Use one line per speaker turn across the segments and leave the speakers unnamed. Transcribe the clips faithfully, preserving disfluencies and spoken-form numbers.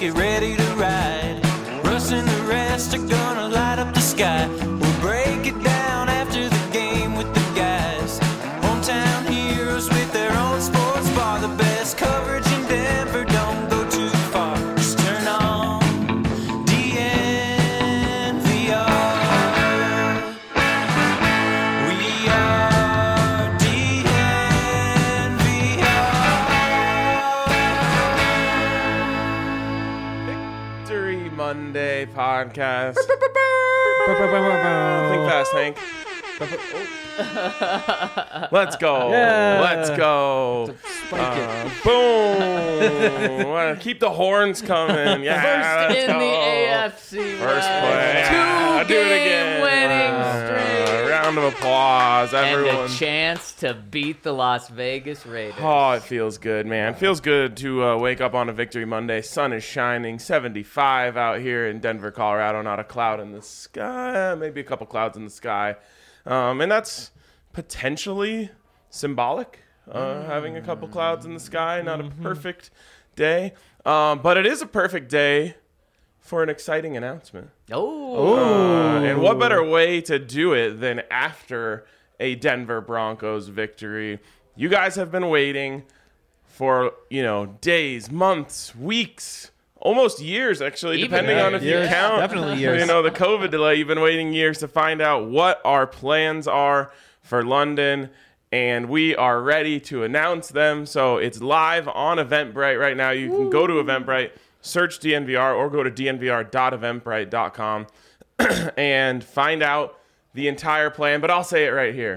get ready to ride. Russ and the rest are gonna light up the sky. We'll break it down after the game with the guys. Hometown heroes with their own sports bar. The best coverage in Denver, don't go too far. Just turn on D N V R. We are D N V R.
Victory Monday podcast. Think fast, Hank. Let's go.
Yeah.
Let's go. Uh, boom. Well, keep the horns coming. Yeah,
First
let's
in
go.
the A F C
First
West.
play.
Two
Yeah, I'll do it again.
game winning
Uh,
streak.
round of applause, everyone.
And a chance to beat the Las Vegas Raiders.
Oh, it feels good, man. Feels good to uh, wake up on a Victory Monday. Sun is shining, seventy-five out here in Denver, Colorado. Not a cloud in the sky, maybe a couple clouds in the sky. Um, and that's potentially symbolic, uh, mm. having a couple clouds in the sky. Not mm-hmm. a perfect day, um, but it is a perfect day for an exciting announcement.
Oh.
Uh, and what better way to do it than after a Denver Broncos victory? You guys have been waiting for, you know, days, months, weeks, almost years, actually,
Even
depending
years.
on if
Years.
you count.
Definitely years.
You know, the COVID delay, you've been waiting years to find out what our plans are for London, and we are ready to announce them. So it's live on Eventbrite right now. You can go to Eventbrite, search D N V R, or go to d n v r dot eventbrite dot com and find out the entire plan. But I'll say it right here.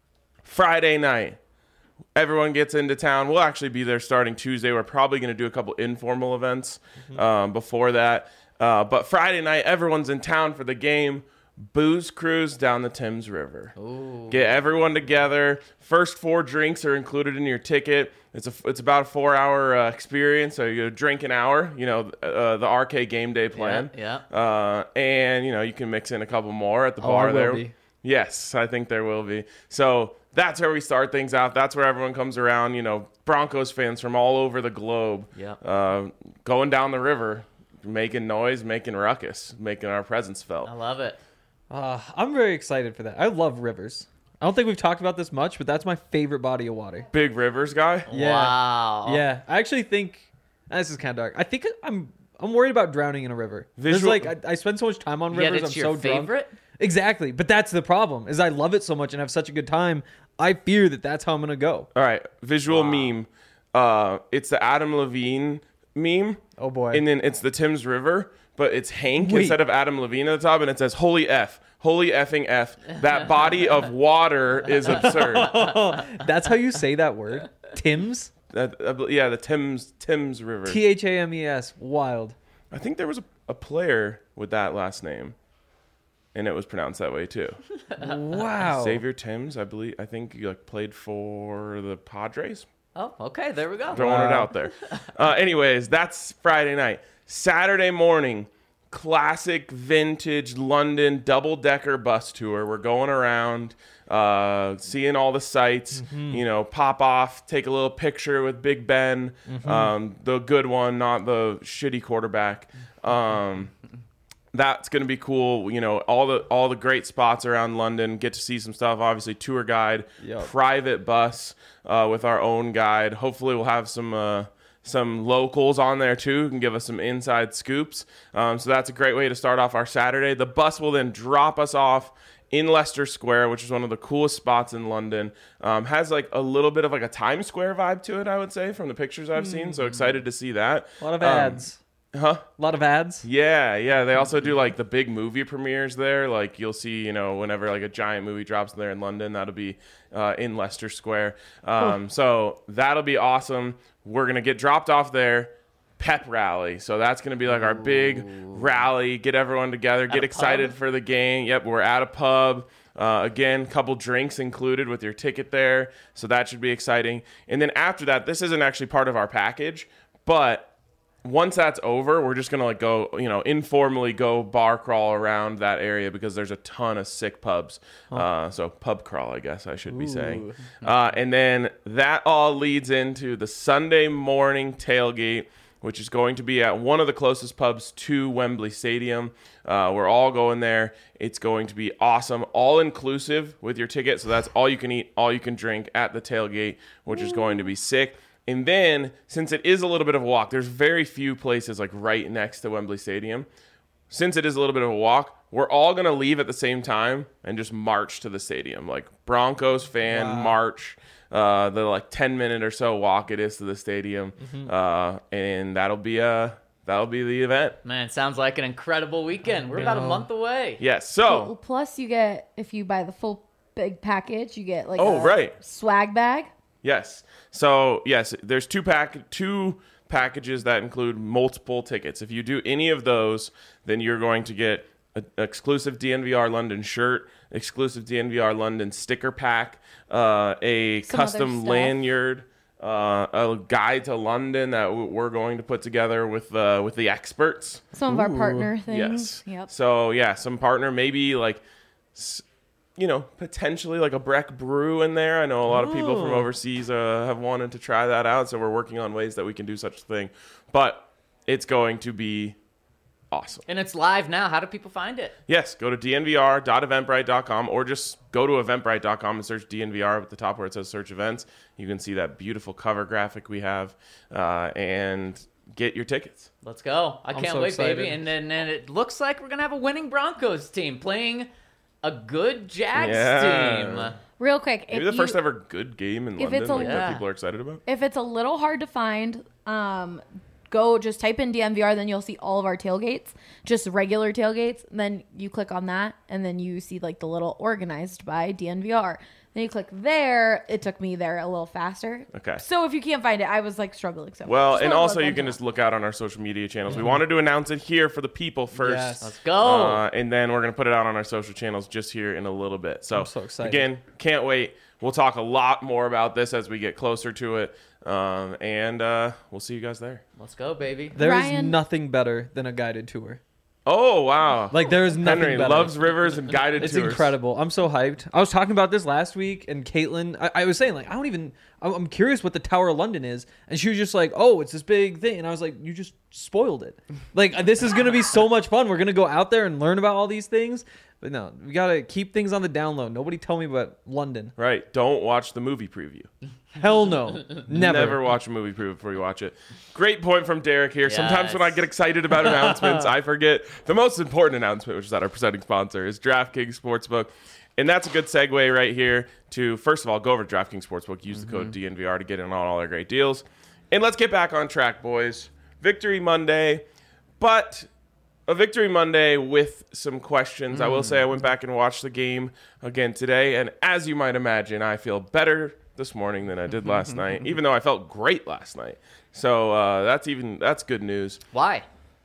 Friday night, everyone gets into town. We'll actually be there starting Tuesday. We're probably going to do a couple informal events mm-hmm. um, before that. Uh, but Friday night, everyone's in town for the game. Booze cruise down the Thames River.
Ooh.
Get everyone together. First four drinks are included in your ticket. It's a it's about a four hour uh, experience. So you drink an hour. You know uh, the R K game day plan.
Yeah. yeah.
Uh, and you know you can mix in a couple more at the
Oh,
bar
I will
there.
be.
Yes, I think there will be. So that's where we start things out. That's where everyone comes around. You know, Broncos fans from all over the globe.
Yeah.
Uh, going down the river, making noise, making ruckus, making our presence felt.
I love it.
Uh, I'm very excited for that. I love rivers. I don't think we've talked about this much, but that's my favorite body of water.
Big rivers guy.
Yeah.
Wow.
Yeah, I actually think this is kind of dark. I think I'm I'm worried about drowning in a river. There's
Visual-
like I, I spend so much time on
Yet
rivers.
it's
I'm
your
so drunk.
favorite?
Exactly, but that's the problem. Is I love it so much and have such a good time. I fear that that's how I'm gonna go.
All right, visual
Wow.
meme. Uh, it's the Adam Levine meme.
Oh boy.
And then it's the Thames River, but it's Hank
Wait.
instead of Adam Levine at the top, and it says "Holy F, Holy effing F." That body of water is absurd.
Oh, that's how you say that word. Tim's.
That, uh, yeah, the Thames Thames River.
T H A M E S. Wild.
I think there was a, a player with that last name, and it was pronounced that way too.
Wow.
Xavier Timms, I believe. I think he like played for the Padres.
Oh, okay. There we go.
Throwing it
Wow.
out there. Uh, anyways, that's Friday night. Saturday morning, classic vintage London double-decker bus tour. We're going around, uh, seeing all the sights,
Mm-hmm.
you know, pop off, take a little picture with Big Ben,
Mm-hmm.
um, the good one, not the shitty quarterback. Um, that's going to be cool. You know, all the all the great spots around London, get to see some stuff. Obviously, tour guide,
Yep.
private bus uh, with our own guide. Hopefully, we'll have some uh, some locals on there too who can give us some inside scoops. Um, so that's a great way to start off our Saturday. The bus will then drop us off in Leicester Square, which is one of the coolest spots in London. Um, has like a little bit of like a Times Square vibe to it, I would say, from the pictures I've seen. So excited to see that.
A lot of
Um,
ads.
Huh?
A lot of ads.
Yeah, yeah. They also do like the big movie premieres there. Like you'll see, you know, whenever like a giant movie drops there in London, that'll be uh, in Leicester Square. Um, so that'll be awesome. We're gonna get dropped off there. Pep rally. So that's gonna be like our big rally. Get everyone together. Get
a
excited
pub?
for the game. Yep, we're at a pub. Uh, again, couple drinks included with your ticket there. So that should be exciting. And then after that, this isn't actually part of our package, but once that's over, we're just going to like go, you know, informally go bar crawl around that area because there's a ton of sick pubs. Uh, so pub crawl, I guess I should be saying. Uh, and then that all leads into the Sunday morning tailgate. which is going to be at one of the closest pubs to Wembley Stadium. Uh, we're all going there. It's going to be awesome, all inclusive with your ticket. So that's all you can eat, all you can drink at the tailgate, which is going to be sick. And then, since it is a little bit of a walk, there's very few places like right next to Wembley Stadium. Since it is a little bit of a walk, we're all going to leave at the same time and just march to the stadium. Like Broncos fan
Wow.
march, uh, the like ten minute or so walk it is to the stadium.
Mm-hmm.
Uh, and that'll be uh, that'll be the event.
Man, sounds like an incredible weekend. We're about a
know.
month away.
Yes.
Well,
So,
plus you get, if you buy the full big package, you get like
Oh,
a
right.
swag bag.
yes. So, yes, there's two pack two packages that include multiple tickets. If you do any of those, then you're going to get an exclusive D N V R London shirt, exclusive D N V R London sticker pack, uh, a
Some other
custom
stuff.
lanyard, uh, a guide to London that w- we're going to put together with uh, with the experts.
Some of our partner things.
Yes.
Yep.
So yeah, some partner, maybe like, s- you know, potentially like a Breck brew in there. I know a lot of people from
Ooh.
overseas uh, have wanted to try that out, so we're working on ways that we can do such a thing. But it's going to be awesome.
And it's live now. How do people find it?
Yes, go to d n v r dot eventbrite dot com or just go to eventbrite dot com and search D N V R at the top where it says search events. You can see that beautiful cover graphic we have uh, and get your tickets.
Let's go. I
I'm
can't
so
wait,
excited.
baby. And then and it looks like we're going to have a winning Broncos team playing a good Jags
Yeah.
team.
Real quick,
Maybe
if
the first
you,
ever good game in
if
London
it's a-
like,
Yeah.
that people are excited about.
if it's a little hard to find, um, go just type in D N V R, then you'll see all of our tailgates, just regular tailgates. Then you click on that, and then you see like the little organized by D N V R. Then you click there. It took me there a little faster.
Okay.
So if you can't find it, I was like struggling. So
Well,
just
and
wanna
also
let
you
them
can
know.
just look out on our social media channels. We wanted to announce it here for the people first.
Yes.
Let's go.
Uh, and then we're going to put it out on our social channels just here in a little bit. So,
I'm so excited.
again, can't wait. We'll talk a lot more about this as we get closer to it. Um, and uh, we'll see you guys there.
Let's go, baby.
There is
Ryan-
nothing better than a guided tour.
Oh, wow.
Like there is nothing
Henry
better.
loves rivers and guided
It's
tours.
incredible. I'm so hyped. I was talking about this last week, and Caitlin, I, I was saying like I don't even. I'm I'm curious what the Tower of London is, and she was just like, "Oh, it's this big thing," and I was like, "You just spoiled it. Like this is gonna be so much fun. We're gonna go out there and learn about all these things." But no, we gotta keep things on the down low. Nobody tell me about London.
Right. Don't watch the movie preview.
Hell no, never.
Never watch a movie preview before you watch it. Great point from Derek here. Sometimes when I
Yes.
get excited about announcements, I forget the most important announcement, which is that our presenting sponsor is DraftKings Sportsbook. And that's a good segue right here to, first of all, go over to DraftKings Sportsbook, use the code D N V R to get in on all our great deals. And let's get back on track, boys. Victory Monday, but a victory Monday with some questions. I will say I went back and watched the game again today, and as you might imagine, I feel better this morning than I did last night, even though I felt great last night. So uh, that's even that's good news.
Why?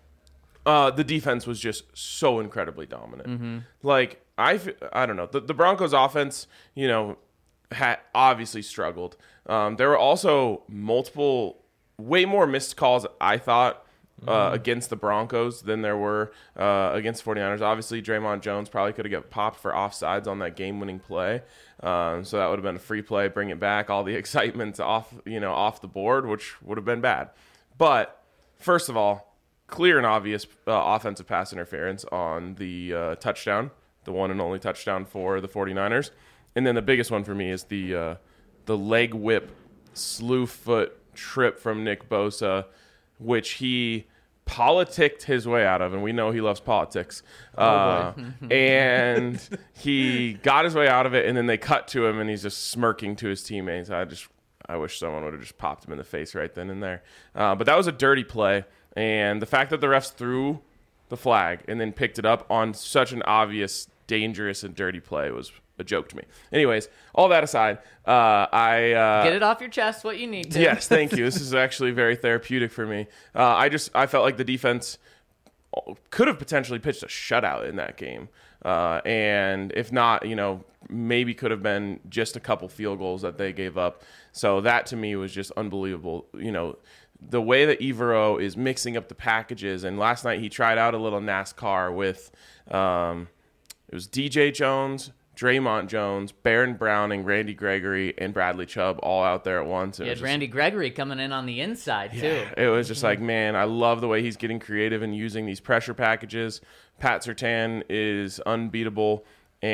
Uh, the defense was just so incredibly dominant. Like I, f- I don't know. The, the Broncos' offense, you know, had obviously struggled. Um, there were also multiple, way more missed calls. I thought. Uh, against the Broncos than there were uh, against 49ers. Obviously, Draymond Jones probably could have got popped for offsides on that game-winning play. Um, so that would have been a free play, bring it back, all the excitement off, you know, off the board, which would have been bad. But first of all, clear and obvious uh, offensive pass interference on the uh, touchdown, the one and only touchdown for the 49ers. And then the biggest one for me is the uh, the leg whip, slew foot trip from Nick Bosa, which he politicked his way out of, and we know he loves politics. Uh, and he got his way out of it, and then they cut to him, and he's just smirking to his teammates. I just, I wish someone would have just popped him in the face right then and there. Uh, but that was a dirty play, and the fact that the refs threw the flag and then picked it up on such an obvious, dangerous, and dirty play was a joke to me. Anyways, all that aside, uh, I uh,
Get it off your chest what you need to.
Yes, thank you. This is actually very therapeutic for me. Uh, I just I felt like the defense could have potentially pitched a shutout in that game, uh, and if not, you know, maybe could have been just a couple field goals that they gave up. So that to me was just unbelievable. You know, the way that Evero is mixing up the packages, and last night he tried out a little NASCAR with um, it was D J Jones, Draymond Jones, Baron Browning, Randy Gregory, and Bradley Chubb all out there at once.
You
It
had
was just-
Randy Gregory coming in on the inside, too.
It was just like, man, I love the way he's getting creative and using these pressure packages. Pat Surtain is unbeatable.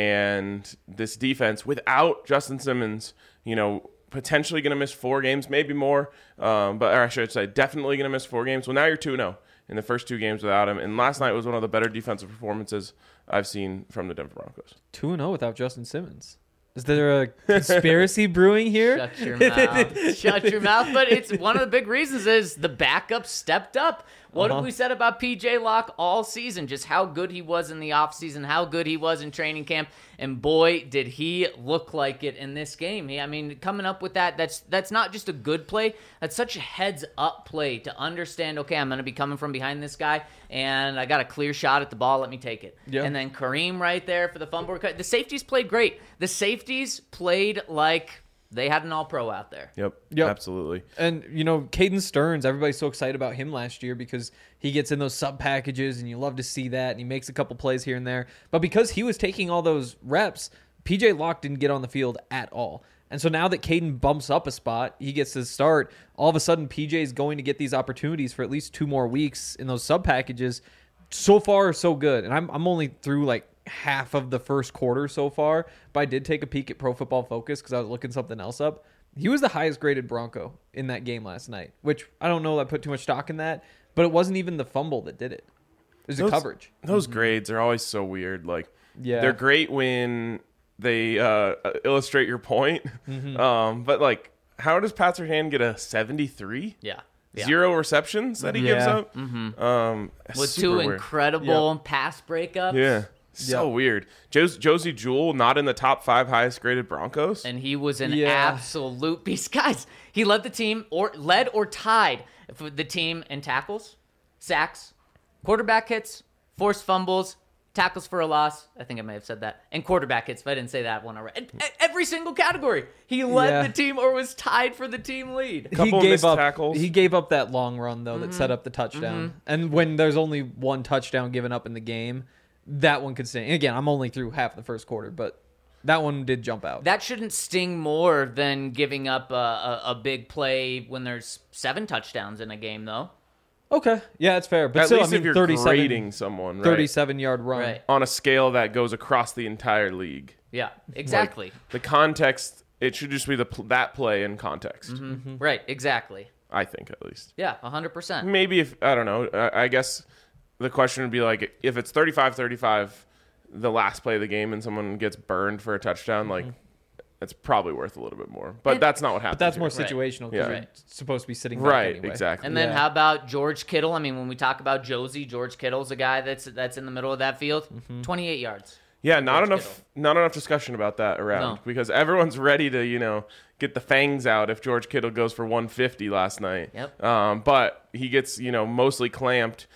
And this defense, without Justin Simmons, you know, potentially going to miss four games, maybe more. Um, but or I should say, definitely going to miss four games. Well, now you're two and oh in the first two games without him. And last night was one of the better defensive performances I've seen from the Denver Broncos.
two and oh without Justin Simmons. Is there a conspiracy brewing here?
Shut your mouth. Shut your mouth. But it's one of the big reasons is the backup stepped up. What
Uh-huh.
have we said about P J Locke all season? Just how good he was in the offseason, how good he was in training camp. And boy, did he look like it in this game. He, I mean, coming up with that, that's that's not just a good play. That's such a heads-up play to understand, okay, I'm going to be coming from behind this guy, and I got a clear shot at the ball. Let me take it.
Yeah.
And then Kareem right there for the fumble recovery. The safeties played great. The safeties played like they had an all-pro out there.
Yep,
Yep.
absolutely.
And, you know, Caden Stearns, everybody's so excited about him last year because he gets in those sub packages and you love to see that. And he makes a couple plays here and there. But because he was taking all those reps, P J Locke didn't get on the field at all. And so now that Caden bumps up a spot, he gets to start. All of a sudden, P J is going to get these opportunities for at least two more weeks in those sub packages. So far, so good. And I'm, I'm only through like half of the first quarter so far, but I did take a peek at Pro Football Focus because I was looking something else up. He was the highest graded Bronco in that game last night, which I don't know that I put too much stock in that, but it wasn't even the fumble that did it. It was the
Those-
coverage.
Those grades are always so weird. Like,
Yeah.
they're great when they uh, illustrate your point.
Mm-hmm.
Um, but, like, how does Pat Surtain get a seventy-three?
Yeah. Yeah.
Zero receptions that he gives
Yeah.
up? Mm-hmm. Um,
With
super
two
weird.
incredible pass breakups.
Yeah. So
Yep.
weird. Jos- Josie Jewell not in the top five highest graded Broncos.
And he was an
Yeah.
absolute beast. Guys, he led the team or led or tied for the team in tackles, sacks, quarterback hits, forced fumbles, tackles for a loss. I think I may have said that. And quarterback hits, if I didn't say that one already. E- Every single category. He led
Yeah.
the team or was tied for the team lead.
Couple
he
of
gave
missed
up
tackles.
He gave up that long run though that set up the touchdown. And when there's only one touchdown given up in the game, that one could sting. Again, I'm only through half the first quarter, but that one did jump out.
That shouldn't sting more than giving up a, a, a big play when there's seven touchdowns in a game, though.
Okay, yeah, it's fair. But
At
still,
least
I mean,
if you're
thirty-seven,
grading someone, right?
thirty-seven yard run.
Right.
On a scale that goes across the entire league.
Yeah, exactly.
Like, the context, it should just be the pl- that play in context.
Right, exactly.
I think, at least.
Yeah, one hundred percent.
Maybe if, I don't know, I, I guess the question would be like, if it's thirty-five thirty-five, the last play of the game, and someone gets burned for a touchdown, like, it's probably worth a little bit more. But
And-
that's not what happened.
But that's
here.
more
Right.
situational because
Yeah.
you're
Right.
supposed to be sitting back
Right,
anyway.
exactly.
And then
Yeah.
how about George Kittle? I mean, when we talk about Josie, George Kittle's a guy that's that's in the middle of that field. twenty-eight yards.
Yeah, not
George
enough, not enough discussion about that around
No.
because everyone's ready to, you know, get the fangs out if George Kittle goes for one fifty last night.
Yep.
Um, but he gets, you know, mostly clamped,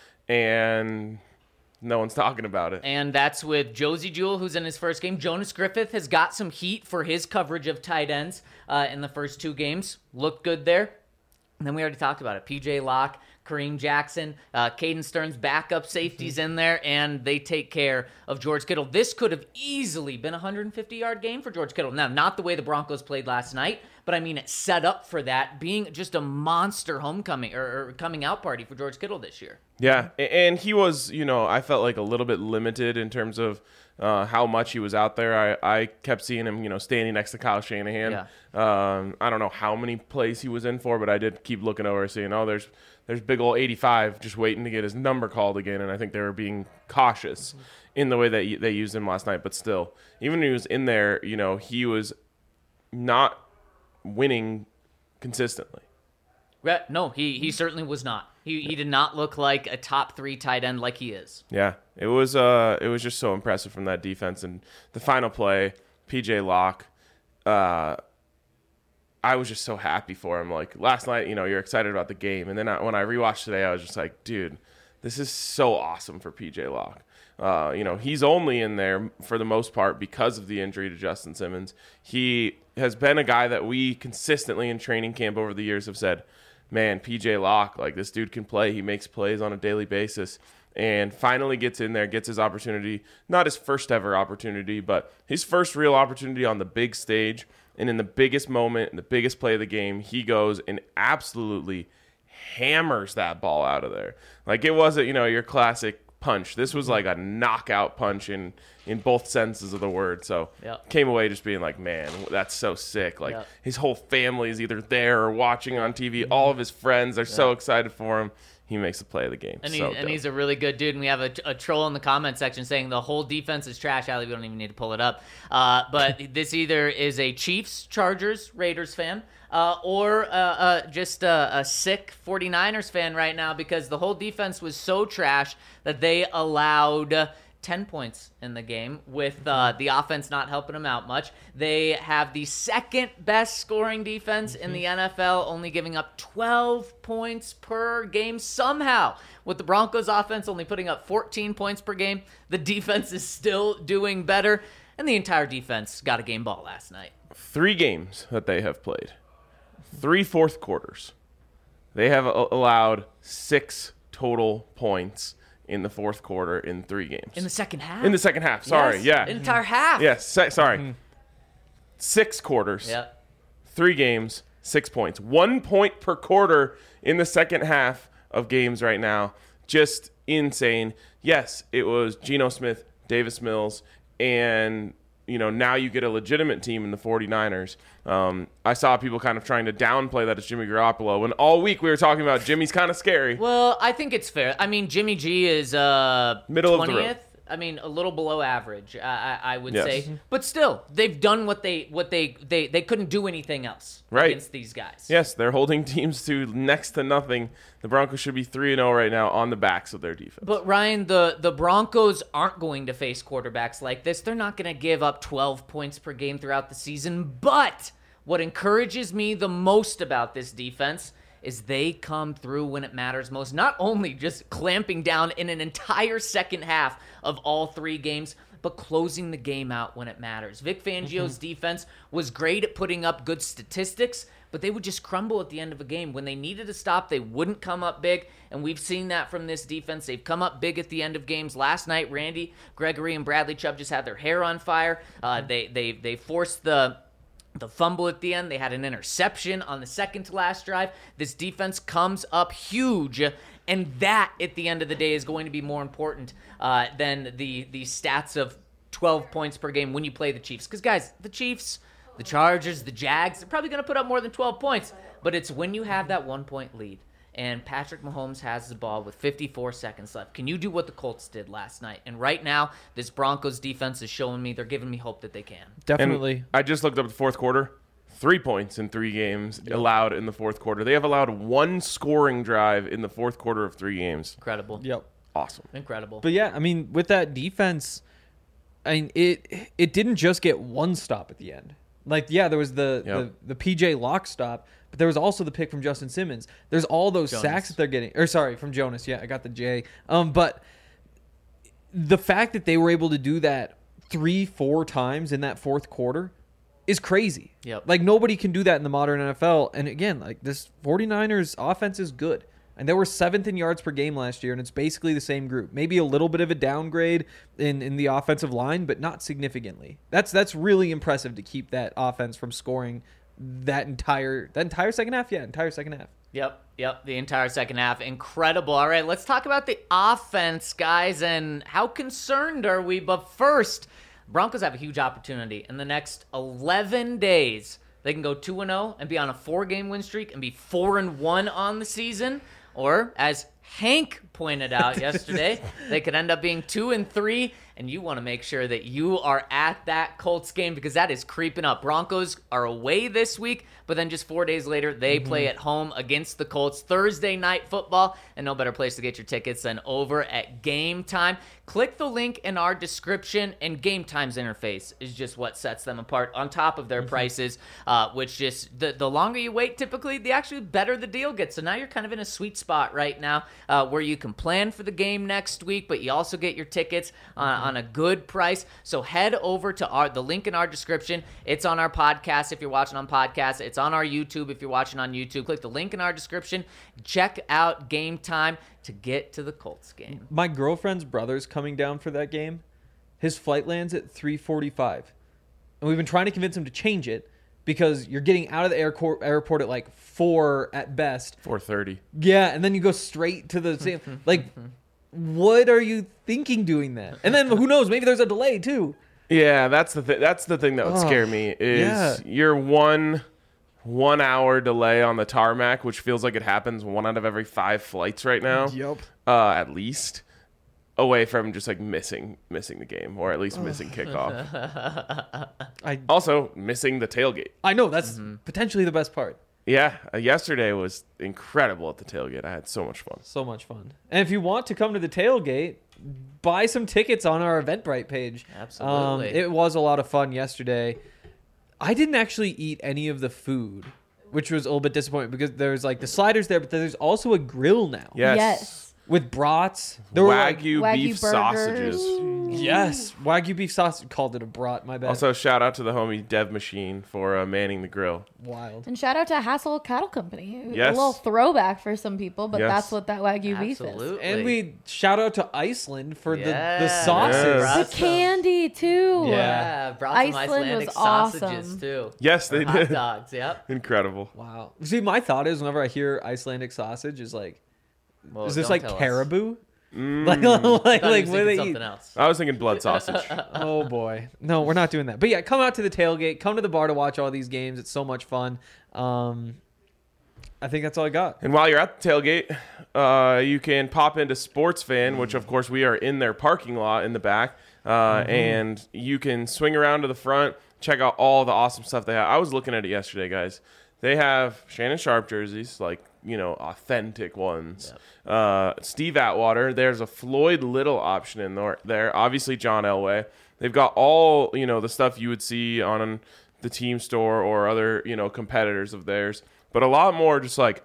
and no one's talking about it.
And that's with Josie Jewell, who's in his first game. Jonas Griffith has got some heat for his coverage of tight ends uh, in the first two games. Looked good there. And then we already talked about it. P J Locke, Kareem Jackson, uh, Caden Stearns, backup safeties in there, and they take care of George Kittle. This could have easily been a one hundred fifty-yard game for George Kittle. Now, not the way the Broncos played last night, but I mean, it set up for that being just a monster homecoming or, or coming out party for George Kittle this year.
Yeah, a- and he was, you know, I felt like a little bit limited in terms of uh, how much he was out there. I, I kept seeing him, you know, standing next to Kyle Shanahan.
Yeah.
Um, I don't know how many plays he was in for, but I did keep looking over, seeing, oh, there's there's big old eighty-five just waiting to get his number called again, and I think they were being cautious in the way that y- they used him last night. But still, even when he was in there, you know, he was not winning consistently.
Right. No, he he certainly was not. He he did not look like a top three tight end like he is.
Yeah, it was uh, it was just so impressive from that defense. And the final play, P J Locke, uh, I was just so happy for him. Like last night, you know, you're excited about the game, and then I, when I rewatched today, I was just like, dude, this is so awesome for P J Locke. Uh, you know, he's only in there for the most part because of the injury to Justin Simmons. He has been a guy that we consistently in training camp over the years have said, man, P J Locke, like this dude can play. He makes plays on a daily basis. And finally gets in there, gets his opportunity. Not his first ever opportunity, but his first real opportunity on the big stage. And in the biggest moment, in the biggest play of the game, he goes and absolutely hammers that ball out of there. Like, it wasn't, you know, your classic punch. This was like a knockout punch in, in both senses of the word. So
Yep.
came away just being like, man, that's so sick. Like,
Yep.
his whole family is either there or watching on T V. All of his friends are so excited for him. He makes the play of the game.
And, he,
so
and
dope.
he's a really good dude. And we have a, a troll in the comment section saying the whole defense is trash. Allie, we don't even need to pull it up. Uh, but this either is a Chiefs, Chargers, Raiders fan, uh, or uh, uh, just a, a sick 49ers fan right now, because the whole defense was so trash that they allowed uh, ten points in the game, with uh, the offense not helping them out much. They have the second best scoring defense in the N F L, only giving up twelve points per game somehow. With the Broncos offense only putting up fourteen points per game, the defense is still doing better, and the entire defense got a game ball last night.
Three games that they have played, three fourth quarters. They have a- allowed six total points in the fourth quarter in three games.
In the second half?
In the second half, sorry,
Yes,
yeah.
An entire half.
Yes, se- sorry. Six quarters,
Yep.
three games, six points. One point per quarter in the second half of games right now. Just insane. Yes, it was Geno Smith, Davis Mills, and you know, now you get a legitimate team in the 49ers. Um, I saw people kind of trying to downplay that it's Jimmy Garoppolo, when all week we were talking about Jimmy's kind of scary.
Well, I think it's fair. I mean, Jimmy G is uh,
Middle of the road.
twentieth. I mean, a little below average, I, I, I would
Yes.
say. But still, they've done what they what they they, they couldn't do anything else
Right.
against these guys.
Yes, they're holding teams to next to nothing. The Broncos should be three and oh right now on the backs of their defense.
But Ryan, the, the Broncos aren't going to face quarterbacks like this. They're not going to give up twelve points per game throughout the season. But what encourages me the most about this defense is they come through when it matters most. Not only just clamping down in an entire second half of all three games, but closing the game out when it matters. Vic Fangio's defense was great at putting up good statistics, but they would just crumble at the end of a game. When they needed to stop, they wouldn't come up big, and we've seen that from this defense. They've come up big at the end of games. Last night, Randy Gregory and Bradley Chubb just had their hair on fire. Uh, they they they forced the the fumble at the end. They had an interception on the second to last drive. This defense comes up huge, and that, at the end of the day, is going to be more important uh, than the the stats of twelve points per game when you play the Chiefs. Because, guys, the Chiefs, the Chargers, the Jags, they're probably going to put up more than twelve points. But it's when you have that one-point lead, and Patrick Mahomes has the ball with fifty-four seconds left. Can you do what the Colts did last night? And right now, this Broncos defense is showing me, they're giving me hope that they can.
Definitely.
And I just looked up the fourth quarter. Three points in three games allowed in the fourth quarter. They have allowed one scoring drive in the fourth quarter of three games.
Incredible.
Yep.
Awesome.
Incredible.
But yeah, I mean, with that defense, I mean, it it didn't just get one stop at the end. Like, yeah, there was the
Yep.
the, the P J Locke stop, but there was also the pick from Justin Simmons. There's all those
Jonas.
sacks that they're getting. Or sorry, from Jonas. Yeah, I got the J. Um, but the fact that they were able to do that three, four times in that fourth quarter is crazy.
Yep.
Like, nobody can do that in the modern N F L. And again, like, this 49ers offense is good. And they were seventh in yards per game last year, and it's basically the same group. Maybe a little bit of a downgrade in, in the offensive line, but not significantly. That's that's really impressive to keep that offense from scoring that entire that entire second half. Yeah, entire second half.
Yep, yep, the entire second half. Incredible. All right, let's talk about the offense, guys, and how concerned are we? But first, Broncos have a huge opportunity. In the next eleven days, they can go two and oh and be on a four-game win streak and be four and one on the season. Or, as Hank pointed out yesterday, they could end up being two and three, and you want to make sure that you are at that Colts game because that is creeping up. Broncos are away this week, but then just four days later, they mm-hmm. play at home against the Colts. Thursday night football, and no better place to get your tickets than over at Game Time. Click the link in our description, and Game Time's interface is just what sets them apart on top of their mm-hmm. prices, uh, which just, the, the longer you wait, typically, the actually better the deal gets. So now you're kind of in a sweet spot right now uh, where you can can plan for the game next week, but you also get your tickets uh, on a good price. So head over to our the link in our description. It's on our podcast if you're watching on podcast. It's on our YouTube if you're watching on YouTube. Click the link in our description. Check out Game Time to get to the Colts game.
My girlfriend's brother's coming down for that game. His flight lands at three forty-five. And we've been trying to convince him to change it because you're getting out of the airport, airport at like four at best.
four thirty.
Yeah, and then you go straight to the same. Like, what are you thinking doing that? And then who knows? Maybe there's a delay too.
Yeah, that's the th- that's the thing that would
Oh,
scare me is
yeah.
your one one hour delay on the tarmac, which feels like it happens one out of every five flights right now.
Yep.
Uh, at least away from just like missing missing the game or at least missing kickoff.
I
Also missing the tailgate.
I know that's potentially the best part.
Yeah, uh, yesterday was incredible at the tailgate. I had so much fun.
So much fun. And if you want to come to the tailgate, buy some tickets on our Eventbrite page.
Absolutely.
Um, it was a lot of fun yesterday. I didn't actually eat any of the food, which was a little bit disappointing because there's like the sliders there, but there's also a grill now.
Yes.
Yes.
With brats. There were like,
Wagyu,
Wagyu
beef
burgers.
sausages.
yes, Wagyu beef sausage. Called it a brat, my bad.
Also, shout out to the homie Dev Machine for uh, manning the grill.
Wild.
And shout out to Hassel Cattle Company.
Yes.
A little throwback for some people, but
Yes.
that's what that Wagyu beef is.
Absolutely.
And we shout out to Iceland for the, the
Yeah.
sauces.
Yes.
The candy, too.
Yeah.
Yeah, brought some
Iceland
Icelandic
was
sausages
awesome.
too.
Yes, they
Or hot
did.
dogs. Yep.
Incredible.
Wow. See, my thought is whenever I hear Icelandic sausage, is like,
Well,
is this
don't
like
tell us.
caribou?
Mm.
Like,
I thought
like,
he
like
was
what do
thinking
they
something
eat?
else.
I was thinking blood sausage.
Oh boy, no, we're not doing that. But yeah, come out to the tailgate, come to the bar to watch all these games. It's so much fun. Um, I think that's all I got.
And while you're at the tailgate, uh, you can pop into Sports Fan, which of course we are in their parking lot in the back, uh, and you can swing around to the front, check out all the awesome stuff they have. I was looking at it yesterday, guys. They have Shannon Sharp jerseys, like, you know, authentic ones. Uh, Steve Atwater. There's a Floyd Little option in there. there. Obviously, John Elway. They've got all, you know, the stuff you would see on the team store or other, you know, competitors of theirs. But a lot more just like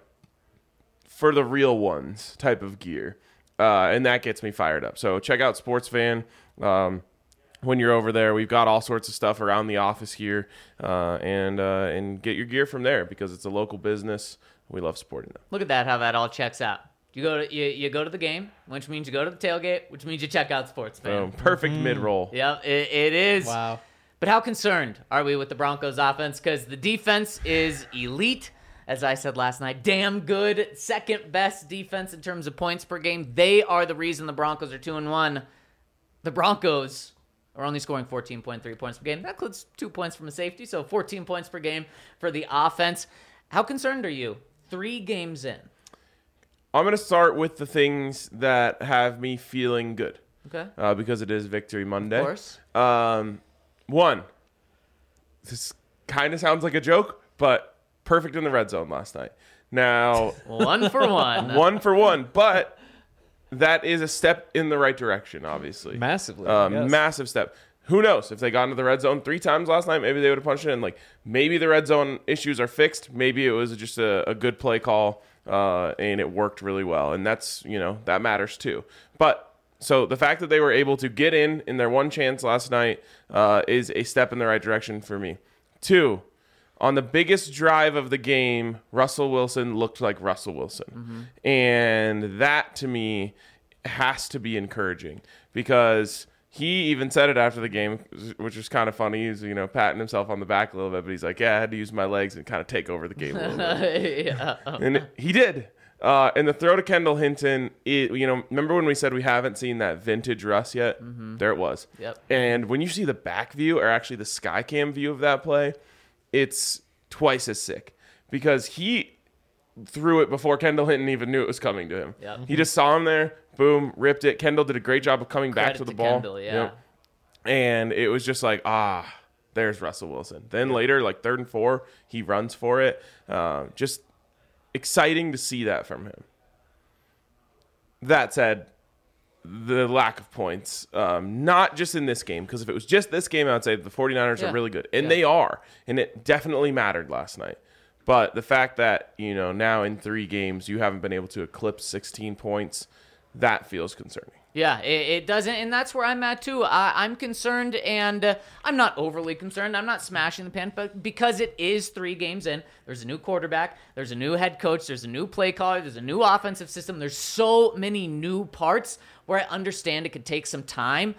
for the real ones type of gear. Uh, and that gets me fired up. So check out Sports Fan. Um, when you're over there, we've got all sorts of stuff around the office here, uh, and uh, and get your gear from there because it's a local business. We love supporting them.
Look at that, how that all checks out. You go to you, you go to the game, which means you go to the tailgate, which means you check out Sports Fan.
Boom. Perfect mid-roll.
Yep, it, it is.
Wow.
But how concerned are we with the Broncos offense? Because the defense is elite. As I said last night, damn good. Second best defense in terms of points per game. They are the reason the Broncos are two and one. The Broncos are only scoring fourteen point three points per game. That includes two points from a safety, so fourteen points per game for the offense. How concerned are you? Three games in.
I'm going to start with the things that have me feeling good.
Okay.
Uh, because it is Victory Monday.
Of course.
Um, one, this kind of sounds like a joke, but perfect in the red zone last night. Now,
One for one.
one for one, but that is a step in the right direction, obviously.
Massively.
Um,
yes.
Massive step. Who knows? If they got into the red zone three times last night, maybe they would have punched it in. Like, maybe the red zone issues are fixed. Maybe it was just a, a good play call, uh, and it worked really well. And that's, you know, that matters too. But so the fact that they were able to get in in their one chance last night uh, is a step in the right direction for me. Two, on the biggest drive of the game, Russell Wilson looked like Russell Wilson. Mm-hmm. And that, to me, has to be encouraging because he even said it after the game, which was kind of funny. He's, you know, patting himself on the back a little bit, but he's like, yeah, I had to use my legs and kind of take over the game a little bit.
yeah.
And he did. Uh, and the throw to Kendall Hinton, it, you know, remember when we said we haven't seen that vintage Russ yet? Mm-hmm. There it was.
Yep.
And when you see the back view, or actually the sky cam view of that play, it's twice as sick because he threw it before Kendall Hinton even knew it was coming to him.
Yep.
He just saw him there, boom, ripped it. Kendall did a great job of coming back
Credit
to the
to
ball.
Kendall, yeah.
And it was just like, ah, there's Russell Wilson. Then later, like third and four, he runs for it. Uh, just exciting to see that from him. That said, the lack of points, um, not just in this game, because if it was just this game, I would say the 49ers
Yeah.
are really good. And
Yeah.
they are. And it definitely mattered last night. But the fact that, you know, now in three games, you haven't been able to eclipse sixteen points, that feels concerning.
Yeah, it, it doesn't, and that's where I'm at too. I, I'm concerned, and uh, I'm not overly concerned. I'm not smashing the pan, but because it is three games in, there's a new quarterback, there's a new head coach, there's a new play caller, there's a new offensive system. There's so many new parts where I understand it could take some time,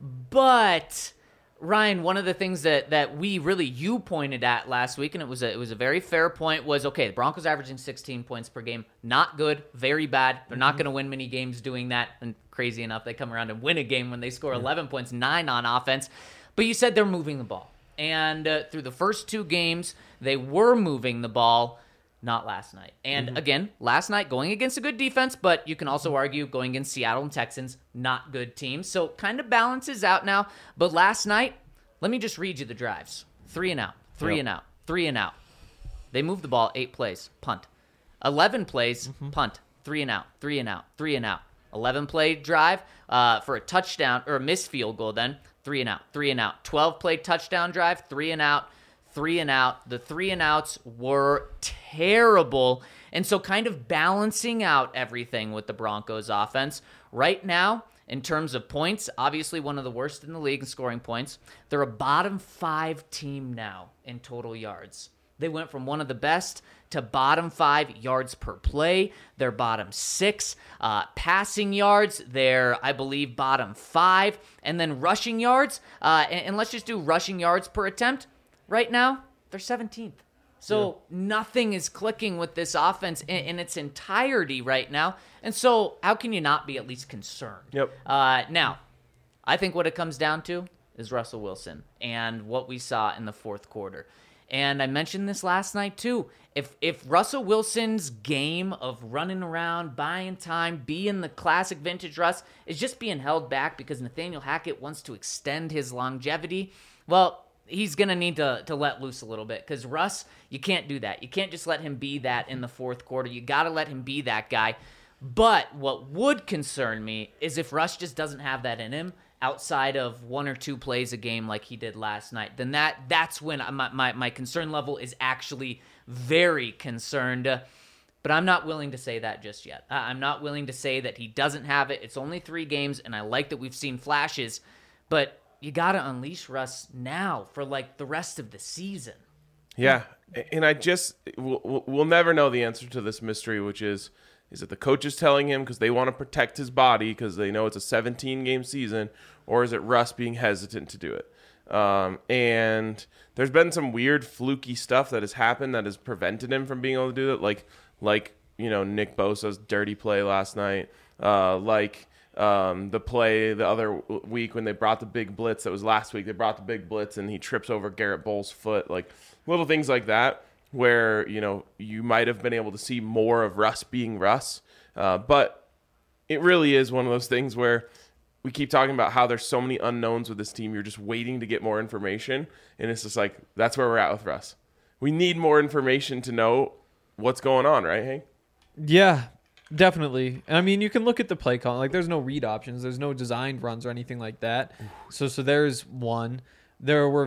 but Ryan, one of the things that, that we really you pointed at last week, and it was a, it was a very fair point, was okay. The Broncos averaging sixteen points per game, not good, very bad. They're not going to win many games doing that. And crazy enough, they come around and win a game when they score eleven points, nine on offense. But you said they're moving the ball, and uh, through the first two games, they were moving the ball. Not last night. And mm-hmm. again, last night going against a good defense, but you can also argue going against Seattle and Texans, not good teams. So kind of balances out now. But last night, let me just read you the drives. Three and out, three yep. and out, three and out. They moved the ball eight plays, punt. eleven plays, mm-hmm. punt. Three and out, three and out, three and out. eleven play drive uh, for a touchdown or a missed field goal then. Three and out, three and out. twelve play touchdown drive, three and out. Three and out. The three and outs were terrible. And so kind of balancing out everything with the Broncos offense. Right now, in terms of points, obviously one of the worst in the league in scoring points. They're a bottom five team now in total yards. They went from one of the best to bottom five yards per play. They're bottom six. Uh, passing yards, they're, I believe, bottom five. And then rushing yards, uh, and, and let's just do rushing yards per attempt. Right now, they're seventeenth. So yeah. nothing is clicking with this offense in, in its entirety right now. And so how can you not be at least concerned?
Yep.
Uh, now, I think what it comes down to is Russell Wilson and what we saw in the fourth quarter. And I mentioned this last night too. If if Russell Wilson's game of running around, buying time, being the classic vintage Russ is just being held back because Nathaniel Hackett wants to extend his longevity, well, he's going to need to to let loose a little bit because Russ, you can't do that. You can't just let him be that in the fourth quarter. You got to let him be that guy. But what would concern me is if Russ just doesn't have that in him outside of one or two plays a game like he did last night, then that that's when my, my, my concern level is actually very concerned. But I'm not willing to say that just yet. I'm not willing to say that he doesn't have it. It's only three games, and I like that we've seen flashes, but you got to unleash Russ now for like the rest of the season.
Yeah. And I just, we'll, we'll never know the answer to this mystery, which is, is it the coaches telling him because they want to protect his body because they know it's a seventeen game season, or is it Russ being hesitant to do it? Um, and there's been some weird fluky stuff that has happened that has prevented him from being able to do it. Like, like, you know, Nick Bosa's dirty play last night, uh, like, Um, the play the other week when they brought the big blitz, that was last week, they brought the big blitz and he trips over Garrett Bowles' foot, like little things like that where, you know, you might have been able to see more of Russ being Russ. Uh, but it really is one of those things where we keep talking about how there's so many unknowns with this team. You're just waiting to get more information. And it's just like, that's where we're at with Russ. We need more information to know what's going on, right, Hank?
Yeah. Definitely. And I mean, you can look at the play call. Like, there's no read options. There's no designed runs or anything like that. So, so there's one. There were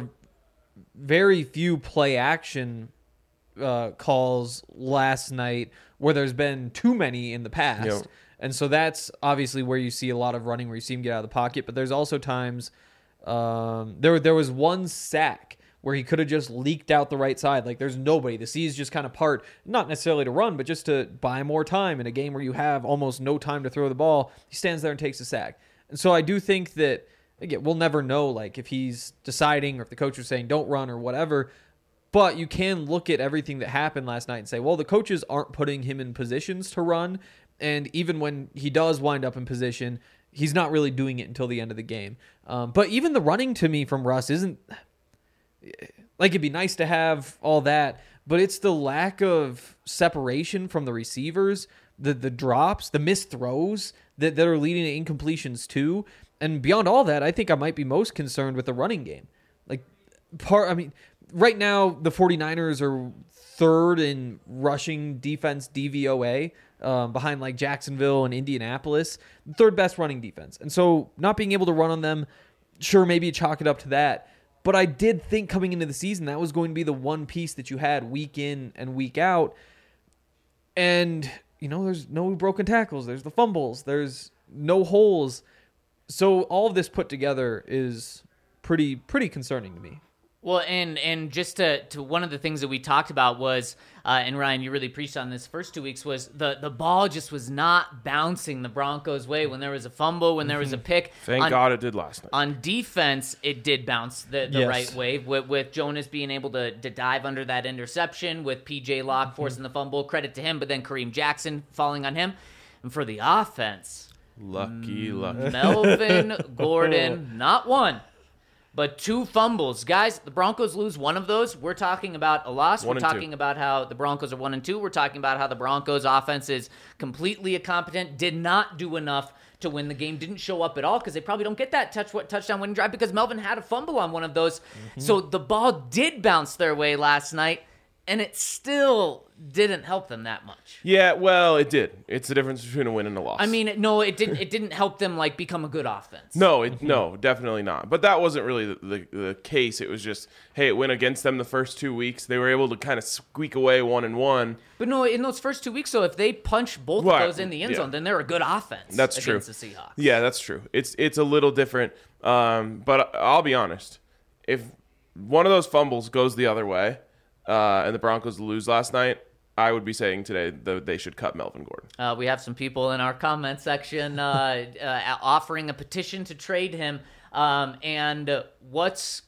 very few play action uh, calls last night where there's been too many in the past. Yep. And so that's obviously where you see a lot of running, where you see him get out of the pocket. But there's also times um, there there was one sack where he could have just leaked out the right side. Like, there's nobody. The seas just kind of part, not necessarily to run, but just to buy more time in a game where you have almost no time to throw the ball. He stands there and takes a sack. And so I do think that, again, we'll never know, like, if he's deciding or if the coach is saying don't run or whatever, but you can look at everything that happened last night and say, well, the coaches aren't putting him in positions to run, and even when he does wind up in position, he's not really doing it until the end of the game. Um, but even the running to me from Russ isn't... Like, it'd be nice to have all that, but it's the lack of separation from the receivers, the the drops, the missed throws that, that are leading to incompletions too. And beyond all that, I think I might be most concerned with the running game. Like, part, I mean, right now, the 49ers are third in rushing defense D V O A, um, behind like Jacksonville and Indianapolis, third best running defense. And so not being able to run on them, sure, maybe chalk it up to that. But I did think coming into the season that was going to be the one piece that you had week in and week out. And, you know, there's no broken tackles. There's the fumbles. There's no holes. So all of this put together is pretty pretty concerning to me.
Well, and and just to, to one of the things that we talked about was, uh, and Ryan, you really preached on this first two weeks, was the, the ball just was not bouncing the Broncos' way when there was a fumble, when there was a pick.
Thank
on,
God it did last night.
On defense, it did bounce the, the
Yes.
right way with, with Jonas being able to, to dive under that interception, with P J Locke forcing the fumble. Credit to him, but then Kareem Jackson falling on him. And for the offense,
Lucky, lucky.
Melvin Gordon, not one, but two fumbles. Guys, the Broncos lose one of those. We're talking about a loss.
One
We're
and two.
talking about how the Broncos are one and two. We're talking about how the Broncos offense is completely incompetent, did not do enough to win the game, didn't show up at all because they probably don't get that touch touchdown winning drive because Melvin had a fumble on one of those.
Mm-hmm.
So the ball did bounce their way last night, and it still didn't help them that much.
Yeah, well, it did. It's the difference between a win and a loss.
I mean, no, it didn't. It didn't help them like become a good offense.
No, it, no, definitely not. But that wasn't really the, the, the case. It was just, hey, it went against them the first two weeks. They were able to kind of squeak away one and one.
But no, in those first two weeks, so if they punch both
Right,
of those in the end
yeah.
zone, then they're a good offense.
That's
against
true.
the Seahawks.
Yeah, that's true. It's it's a little different. Um, but I'll be honest. If one of those fumbles goes the other way, uh, and the Broncos lose last night, I would be saying today that they should cut Melvin Gordon.
Uh, we have some people in our comment section uh, uh, offering a petition to trade him. Um, and uh, what's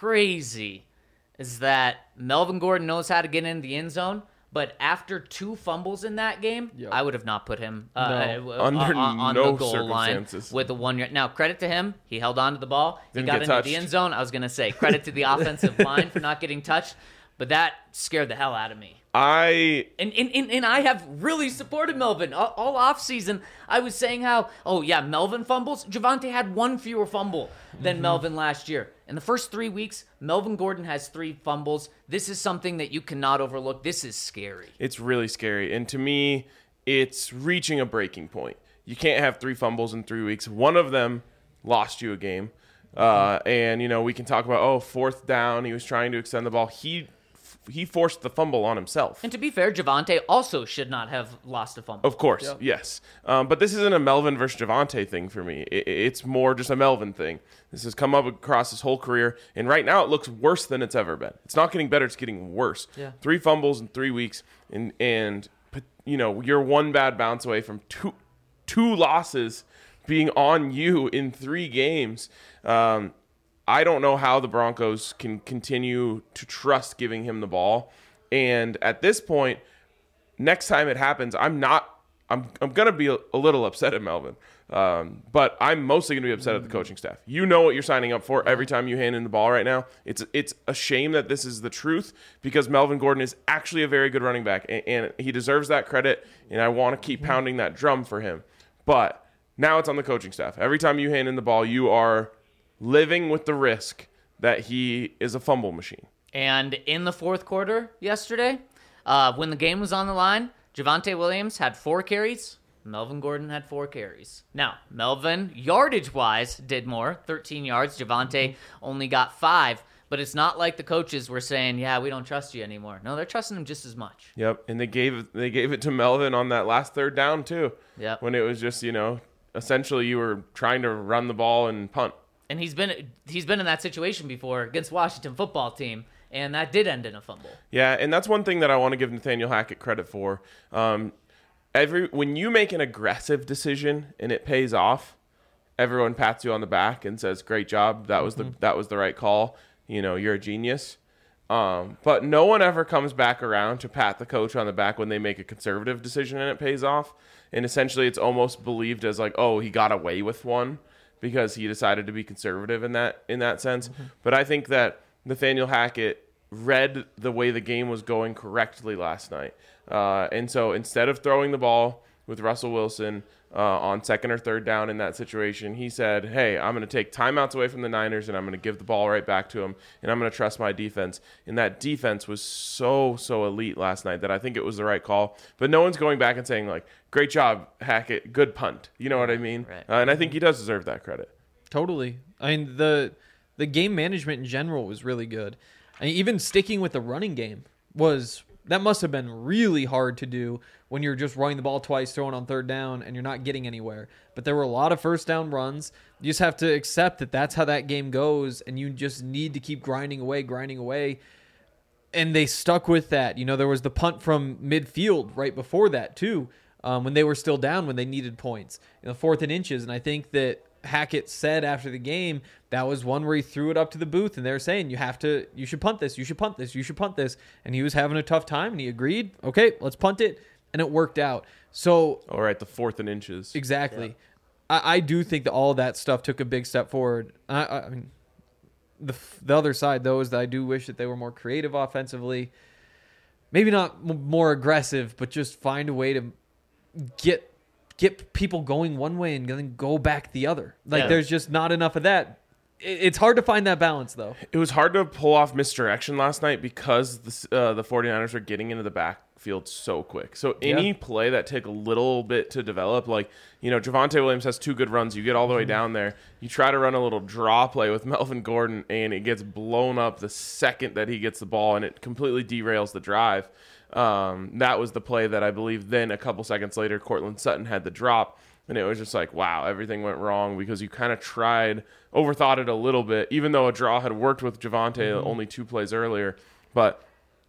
crazy is that Melvin Gordon knows how to get in the end zone. But after two fumbles in that game,
Yep.
I would have not put him uh,
No.
uh,
Under
on, on
no
the goal line
circumstances.
with the one yard. Now, credit to him. He held on to the ball. He
Didn't
got
get
into
touched.
the end zone. I was going to say credit to the offensive line for not getting touched. But that scared the hell out of me.
I
And, and, and, and I have really supported Melvin. All, all offseason, I was saying how, oh, yeah, Melvin fumbles. Javonte had one fewer fumble than Melvin last year. In the first three weeks, Melvin Gordon has three fumbles. This is something that you cannot overlook. This is scary.
It's really scary. And to me, it's reaching a breaking point. You can't have three fumbles in three weeks. One of them lost you a game. Uh, and, you know, we can talk about, oh, fourth down. He was trying to extend the ball. He he forced the fumble on himself.
And to be fair, Javonte also should not have lost a fumble.
Of course,
Yep.
yes. Um, but this isn't a Melvin versus Javonte thing for me. It, it's more just a Melvin thing. This has come up across his whole career, and right now it looks worse than it's ever been. It's not getting better; it's getting worse.
Yeah.
Three fumbles in three weeks, and and you know you're one bad bounce away from two two losses being on you in three games. Um, I don't know how the Broncos can continue to trust giving him the ball. And at this point, next time it happens, I'm not I'm I'm going to be a, a little upset at Melvin. Um, but I'm mostly going to be upset at the coaching staff. You know what you're signing up for every time you hand in the ball right now. It's it's a shame that this is the truth because Melvin Gordon is actually a very good running back and, and he deserves that credit and I want to keep pounding that drum for him. But now it's on the coaching staff. Every time you hand in the ball, you are living with the risk that he is a fumble machine.
And in the fourth quarter yesterday, uh, when the game was on the line, Javonte Williams had four carries. Melvin Gordon had four carries. Now, Melvin, yardage-wise, did more, thirteen yards. Javonte only got five. But it's not like the coaches were saying, yeah, we don't trust you anymore. No, they're trusting him just as much.
Yep, and they gave they gave it to Melvin on that last third down too.
Yep.
When it was just, you know, essentially you were trying to run the ball and punt.
And he's been he's been in that situation before against Washington football team, and that did end in a fumble.
Yeah, and that's one thing that I want to give Nathaniel Hackett credit for. Um, every when you make an aggressive decision and it pays off, everyone pats you on the back and says, "Great job. That was the that was the right call. You know, you're a genius." Um, but no one ever comes back around to pat the coach on the back when they make a conservative decision and it pays off. And essentially, it's almost believed as like, "Oh, he got away with one." Because he decided to be conservative in that in that sense. Mm-hmm. But I think that Nathaniel Hackett read the way the game was going correctly last night. Uh, and so instead of throwing the ball with Russell Wilson uh, on second or third down in that situation, he said, hey, I'm going to take timeouts away from the Niners and I'm going to give the ball right back to him and I'm going to trust my defense. And that defense was so, so elite last night that I think it was the right call. But no one's going back and saying, like, great job, Hackett, good punt. You know what I mean?
Right.
Uh, and I think he does deserve that credit.
Totally. I mean, the the game management in general was really good. I mean, even sticking with the running game was that must have been really hard to do when you're just running the ball twice, throwing on third down, and you're not getting anywhere. But there were a lot of first down runs. You just have to accept that that's how that game goes, and you just need to keep grinding away, grinding away. And they stuck with that. You know, there was the punt from midfield right before that, too, um, when they were still down, when they needed points. You know, fourth and inches. And I think that Hackett said after the game, that was one where he threw it up to the booth, and they're saying, you have to, you should punt this, you should punt this, you should punt this. And he was having a tough time, and he agreed, okay, let's punt it. And it worked out. So,
All right, the fourth and inches.
exactly. Yeah. I, I do think that all of that stuff took a big step forward. I, I mean, the the other side, though, is that I do wish that they were more creative offensively. Maybe not m- more aggressive, but just find a way to get get people going one way and then go back the other. Like,
Yeah.
there's just not enough of that. It, it's hard to find that balance, though.
It was hard to pull off misdirection last night because the, uh, the 49ers were getting into the backfield so quick. So any
Yeah.
play that took a little bit to develop, like, you know, Javonte Williams has two good runs. You get all the way down there. You try to run a little draw play with Melvin Gordon, and it gets blown up the second that he gets the ball, and it completely derails the drive. Um, that was the play that I believe then a couple seconds later, Cortland Sutton had the drop. And it was just like, wow, everything went wrong because you kind of tried, overthought it a little bit, even though a draw had worked with Javonte mm-hmm. only two plays earlier. But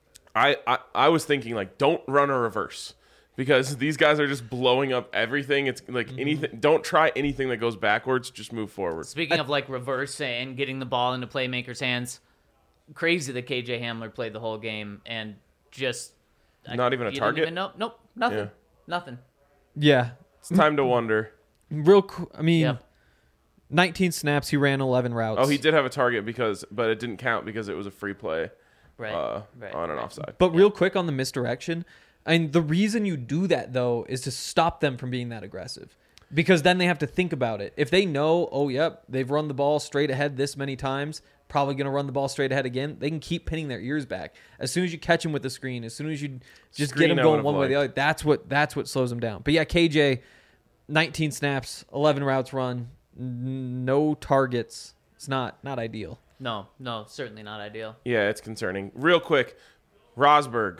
I, I I was thinking, like, don't run a reverse because these guys are just blowing up everything. It's like mm-hmm. anything. Don't try anything that goes backwards. Just move forward.
Speaking I, of, like, reverse and getting the ball into playmakers' hands, crazy that K J Hamler played the whole game and just...
Not
I,
even a
you
target?
Didn't even know, nope, nothing.
Yeah.
Nothing.
Yeah.
It's time to wonder.
Real qu- I mean,
Yep.
nineteen snaps, he ran eleven routes.
Oh, he did have a target, because, but it didn't count because it was a free play
Right.
uh,
right.
on an
right.
offside.
But real quick on the misdirection, and the reason you do that, though, is to stop them from being that aggressive. Because then they have to think about it. If they know, oh, yep, they've run the ball straight ahead this many times, probably going to run the ball straight ahead again, they can keep pinning their ears back. As soon as you catch them with the screen, as soon as you just
Screen
get them
I
going
would've
one way or the
liked.
other, that's what that's what slows them down. But yeah, K J, nineteen snaps, eleven routes run, n- no targets. It's not not ideal.
No, no, certainly not ideal.
Yeah, it's concerning. Real quick, Rosberg,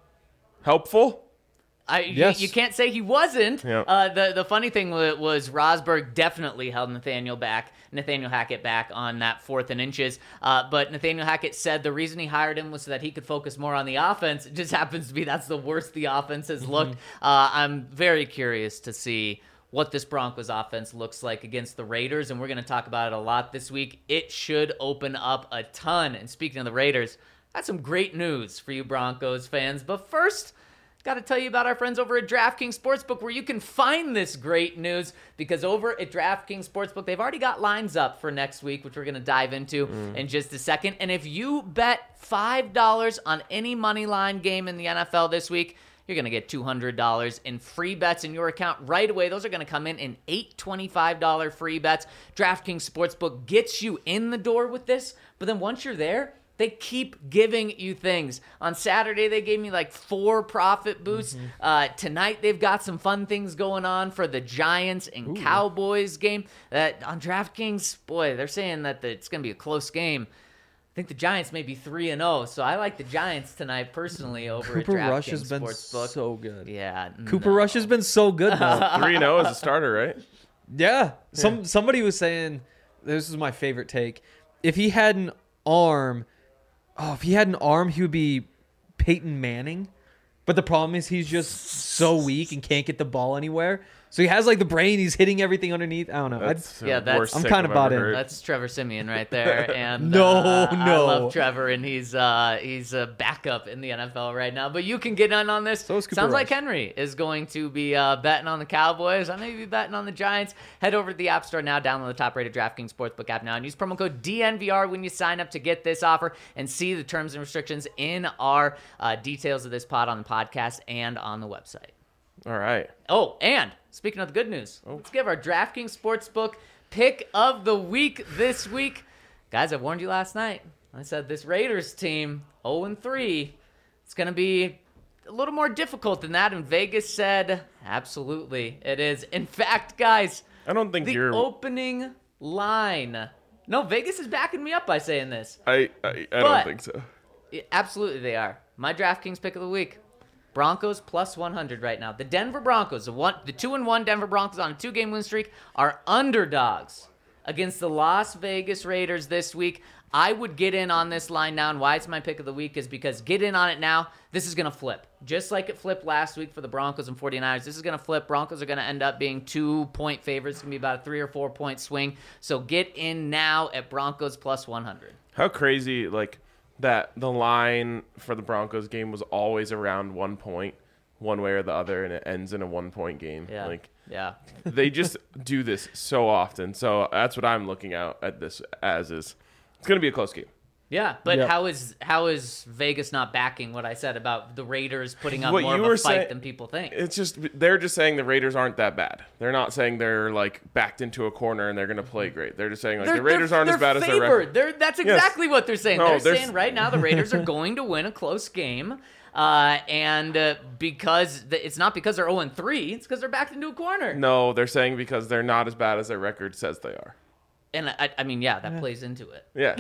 helpful?
I,
Yes.
you, you can't say he wasn't.
Yeah.
Uh, the the funny thing was, was Rosberg definitely held Nathaniel back, Nathaniel Hackett back on that fourth and inches. Uh, but Nathaniel Hackett said the reason he hired him was so that he could focus more on the offense. It just happens to be that's the worst the offense has looked. Uh, I'm very curious to see what this Broncos offense looks like against the Raiders, and we're going to talk about it a lot this week. It should open up a ton. And speaking of the Raiders, that's some great news for you Broncos fans. But first, got to tell you about our friends over at DraftKings Sportsbook, where you can find this great news, because over at DraftKings Sportsbook, they've already got lines up for next week, which we're going to dive into mm. in just a second. And if you bet five dollars on any money line game in the N F L this week, you're going to get two hundred dollars in free bets in your account right away. Those are going to come in in eight twenty-five dollars free bets. DraftKings Sportsbook gets you in the door with this, but then once you're there, they keep giving you things. On Saturday, they gave me like four profit boosts. Mm-hmm. Uh, tonight, they've got some fun things going on for the Giants and Ooh. Cowboys game. That on DraftKings, boy, they're saying that the, it's going to be a close game. I think the Giants may be three and oh, so I like the Giants tonight personally over
Cooper
at DraftKings
Rush has been
Sportsbook.
so good.
Yeah.
Cooper
no.
Rush has been so good, though.
three and oh as a starter, right?
Yeah. Some Somebody was saying, this is my favorite take, if he had an arm... Oh, if he had an arm, he would be Peyton Manning. But the problem is he's just so weak and can't get the ball anywhere. So he has like the brain. He's hitting everything underneath. I don't know.
That's
yeah, that's,
worst
I'm
take
kind of
I've
bought
ever
in.
heard.
That's Trevor Siemian right there. And
No,
uh, I
no.
love Trevor, and he's uh, he's a backup in the N F L right now. But you can get in on this.
So is Cooper
Sounds like
Rush.
Henry is going to be uh, betting on the Cowboys. I may be betting on the Giants. Head over to the App Store now. Download the top-rated DraftKings Sportsbook app now, and use promo code D N V R when you sign up to get this offer, and see the terms and restrictions in our uh, details of this pod on the podcast and on the website.
All right.
Oh, and speaking of the good news,
Oh.
let's give our DraftKings Sportsbook pick of the week this week. Guys, I warned you last night. I said this Raiders team, oh and three, it's going to be a little more difficult than that, and Vegas said, absolutely, it is. In fact, guys,
I don't think
the
you're...
opening line. No, Vegas is backing me up by saying this.
I, I, I
But-
don't think so.
Yeah, absolutely, they are. My DraftKings pick of the week. Broncos plus one hundred right now. The Denver Broncos, the one, the two and one Denver Broncos on a two-game win streak, are underdogs against the Las Vegas Raiders this week. I would get in on this line now, and why it's my pick of the week is because get in on it now. This is going to flip. Just like it flipped last week for the Broncos and 49ers, this is going to flip. Broncos are going to end up being two-point favorites. It's going to be about a three- or four-point swing. So get in now at Broncos plus one hundred.
How crazy, like, that the line for the Broncos game was always around one point, one way or the other, and it ends in a one-point game.
Yeah.
Like,
Yeah.
they just do this so often. So that's what I'm looking out at this as is. It's going to be a close game.
Yeah, but
Yep.
how is how is Vegas not backing what I said about the Raiders putting up
What
more
you
of a
were
fight
saying-
than people think?
It's just they're just saying the Raiders aren't that bad. They're not saying they're like backed into a corner and they're going to play great. They're just saying like
They're-
the Raiders
they're-
aren't as
they're
bad as their
favored.
record.
They're, that's
Yes.
exactly what they're saying.
No,
they're
they're-
saying right now the Raiders are going to win a close game. Uh, and uh, because the, it's not because they're oh and three, it's because they're backed into a corner.
No, they're saying because they're not as bad as their record says they are.
And I, I mean, yeah, that plays into it.
Yeah.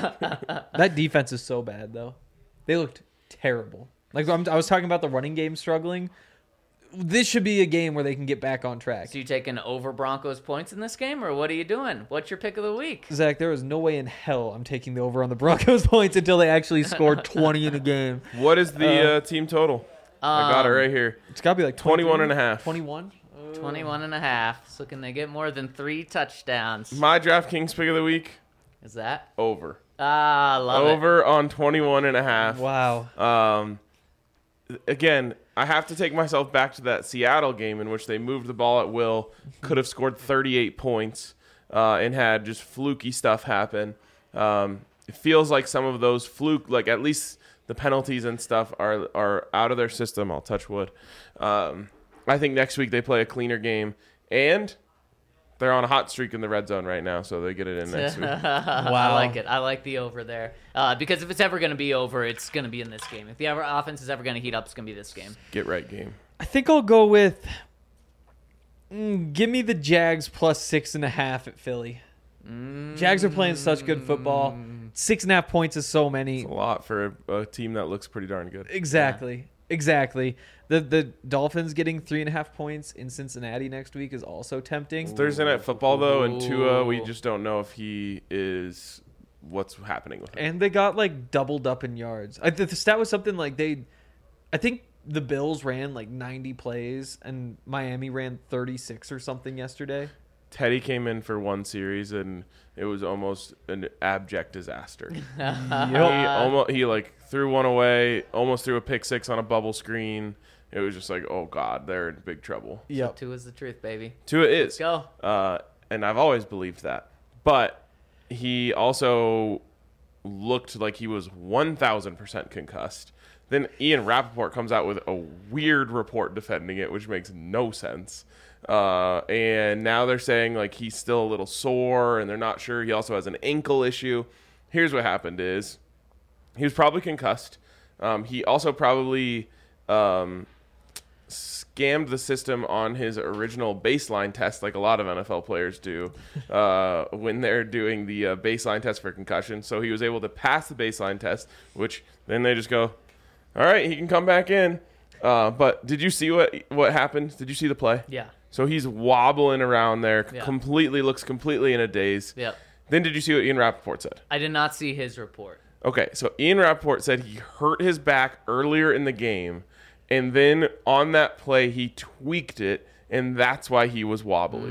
That defense is so bad, though. They looked terrible. Like I'm, I was talking about the running game struggling. This should be a game where they can get back on track.
So you taking over Broncos points in this game, or what are you doing? What's your pick of the week?
Zach, there is no way in hell I'm taking the over on the Broncos points until they actually score twenty in a game.
What is the
Uh,
uh, team total? I got it
Um,
right here.
It's got to be like
twenty-one and a half.
twenty-one?
twenty-one and a half. So can they get more than three touchdowns?
My DraftKings pick of the week,
Is that?
over.
Ah, love it.
Over on twenty-one and a half.
Wow.
Um, again, I have to take myself back to that Seattle game in which they moved the ball at will, could have scored thirty-eight points, uh, and had just fluky stuff happen. Um, it feels like some of those fluke, like at least the penalties and stuff are are out of their system. I'll touch wood. Um, I think next week they play a cleaner game, and they're on a hot streak in the red zone right now, so they get it in next week.
I like it. I like the over there. Uh, because if it's ever going to be over, it's going to be in this game. If the ever offense is ever going to heat up, it's going to be this game.
Get right game.
I think I'll go with. Mm, give me the Jags plus six and a half at Philly. Jags are playing such good football. Six and a half points is so many.
A lot for a, a team that looks pretty darn good.
Exactly. Exactly. The the Dolphins getting three and a half points in Cincinnati next week is also tempting.
Thursday night football though, and Tua, we
Ooh.
just don't know if he is what's happening with him.
And they got like doubled up in yards. I, the, the stat was something like they, I think the Bills ran like ninety plays and Miami ran thirty-six or something yesterday.
Teddy came in for one series and it was almost an abject disaster. he almost he like threw one away, almost threw a pick six on a bubble screen. It was just like, oh god, they're in big trouble.
Yep.
Two is the truth, baby.
Tua is.
Let's go.
Uh, and I've always believed that. But he also looked like he was one thousand percent concussed. Then Ian Rappaport comes out with a weird report defending it, which makes no sense. Uh, and now they're saying like he's still a little sore and they're not sure. He also has an ankle issue. Here's what happened is he was probably concussed. Um, he also probably um, scammed the system on his original baseline test like a lot of N F L players do uh, when they're doing the uh, baseline test for concussion. So he was able to pass the baseline test, which then they just go, all right, he can come back in. Uh, but did you see what what happened? Did you see the play?
Yeah.
So he's wobbling around there,
Yeah.
completely looks completely in a daze.
Yep.
Then did you see what Ian Rappaport said?
I did not see his report.
Okay, so Ian Rappaport said he hurt his back earlier in the game, and then on that play he tweaked it, and that's why he was wobbly.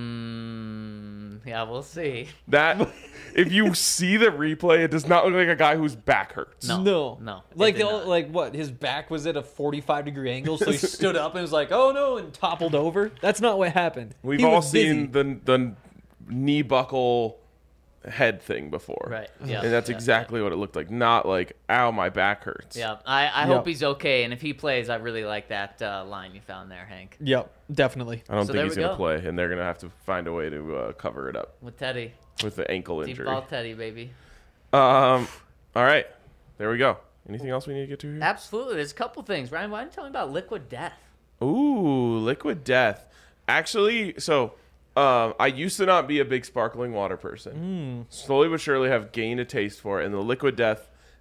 Mm, yeah, we'll see.
That if you see the replay, it does not look like a guy whose back hurts.
No.
No,
no, it
Like
did
the,
not.
like what? His back was at a forty-five degree angle, so he stood up and was like, "Oh no!" and toppled over. That's not what happened.
We've
He
all
was busy.
seen the the knee buckle head thing before.
Right, yeah,
And that's
yeah,
exactly what it looked like. Not like, ow, my back hurts.
Yeah, I, I
Yep.
hope he's okay, and if he plays, I really like that uh, line you found there, Hank,
Yep, definitely.
I don't
So
think
there
he's
we
going to
go.
play, and they're going to have to find a way to uh, cover it up
with Teddy.
with the ankle
Deep
injury.
ball Teddy, baby.
Um, all right, there we go. Anything else we need to get to here?
Absolutely. There's a couple things. Ryan, why don't you tell me about Liquid Death?
Ooh, Liquid Death. Actually, so um, I used to not be a big sparkling water person. Slowly but surely have gained a taste for it, and the Liquid Death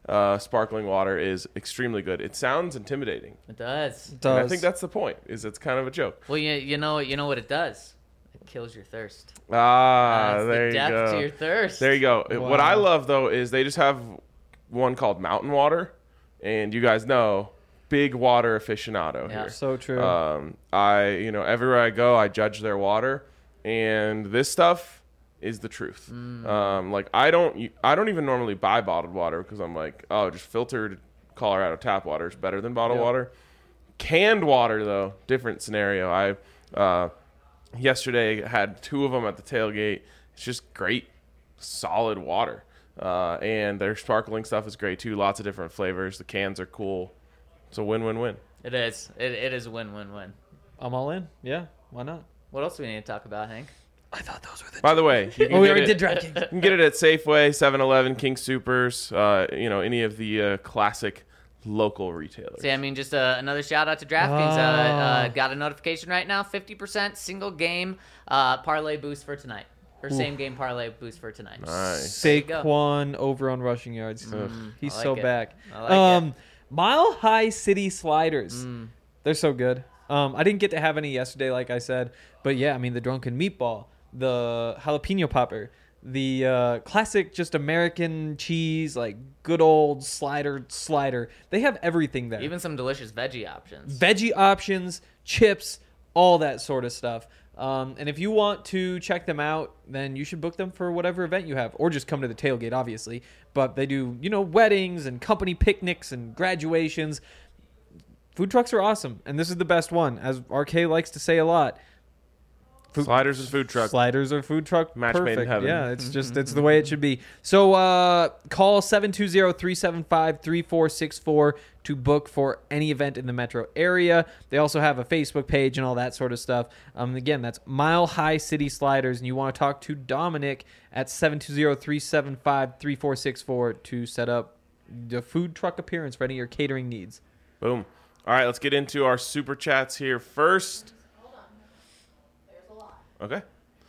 uh, sparkling water is extremely good. It sounds intimidating.
It does.
And
Does.
I think that's the point. Is it's kind of a joke.
Well, you, you know you know what it does? It kills your thirst.
Ah,
That's
there
the
you
death
go.
to your thirst.
There you go. What I
Wow.
love though is they just have one called Mountain Water, and you guys know, big water aficionado
Yeah.
here.
So true.
Um, I you know everywhere I go, I judge their water, and this stuff is the truth.
Mm.
Um, like I don't I don't even normally buy bottled water because I'm like, oh, just filtered Colorado tap water is better than bottled
Yep.
water. Canned water though, different scenario. I uh, yesterday had two of them at the tailgate. It's just great, solid water. Uh, and their sparkling stuff is great too. Lots of different flavors. The cans are cool. It's a win-win-win.
It is. It, it is a win-win-win.
I'm all in. Yeah, why not?
What else do we need to talk about, Hank?
I thought those were the.
By the way, you can,
Oh, we
get,
already
it,
did DraftKings.
you can get it at Safeway, seven eleven, King Supers, uh, you know, any of the uh, classic local retailers.
See, I mean, just uh, another shout out to DraftKings. Uh, uh, got a notification right now. fifty percent single game uh, parlay boost for tonight. Or same game parlay boost for tonight.
Nice.
There you go.
Saquon over on rushing yards. He's
I like
so
it.
back.
I like
um,
it.
Mile High City Sliders. They're so good. Um, I didn't get to have any yesterday, like I said, but yeah, I mean the drunken meatball, the jalapeno popper, the uh, classic just American cheese, like good old slider slider. They have everything there.
Even some delicious veggie options.
Veggie options, chips, all that sort of stuff. Um, and if you want to check them out, then you should book them for whatever event you have, or just come to the tailgate, obviously. But they do, you know, weddings and company picnics and graduations. Food trucks are awesome, and this is the best one, as R K likes to say a lot. Food-
Sliders and food truck.
Sliders are food truck
Match made in
perfect.
heaven.
Yeah, it's just it's the way it should be. So uh, call seven two zero, three seven five, three four six four to book for any event in the metro area. They also have a Facebook page and all that sort of stuff. Um, again, that's Mile High City Sliders, and you want to talk to Dominic at seven two zero, three seven five, three four six four to set up the food truck appearance for any of your catering needs.
Boom. All right, let's get into our super chats here first. Okay.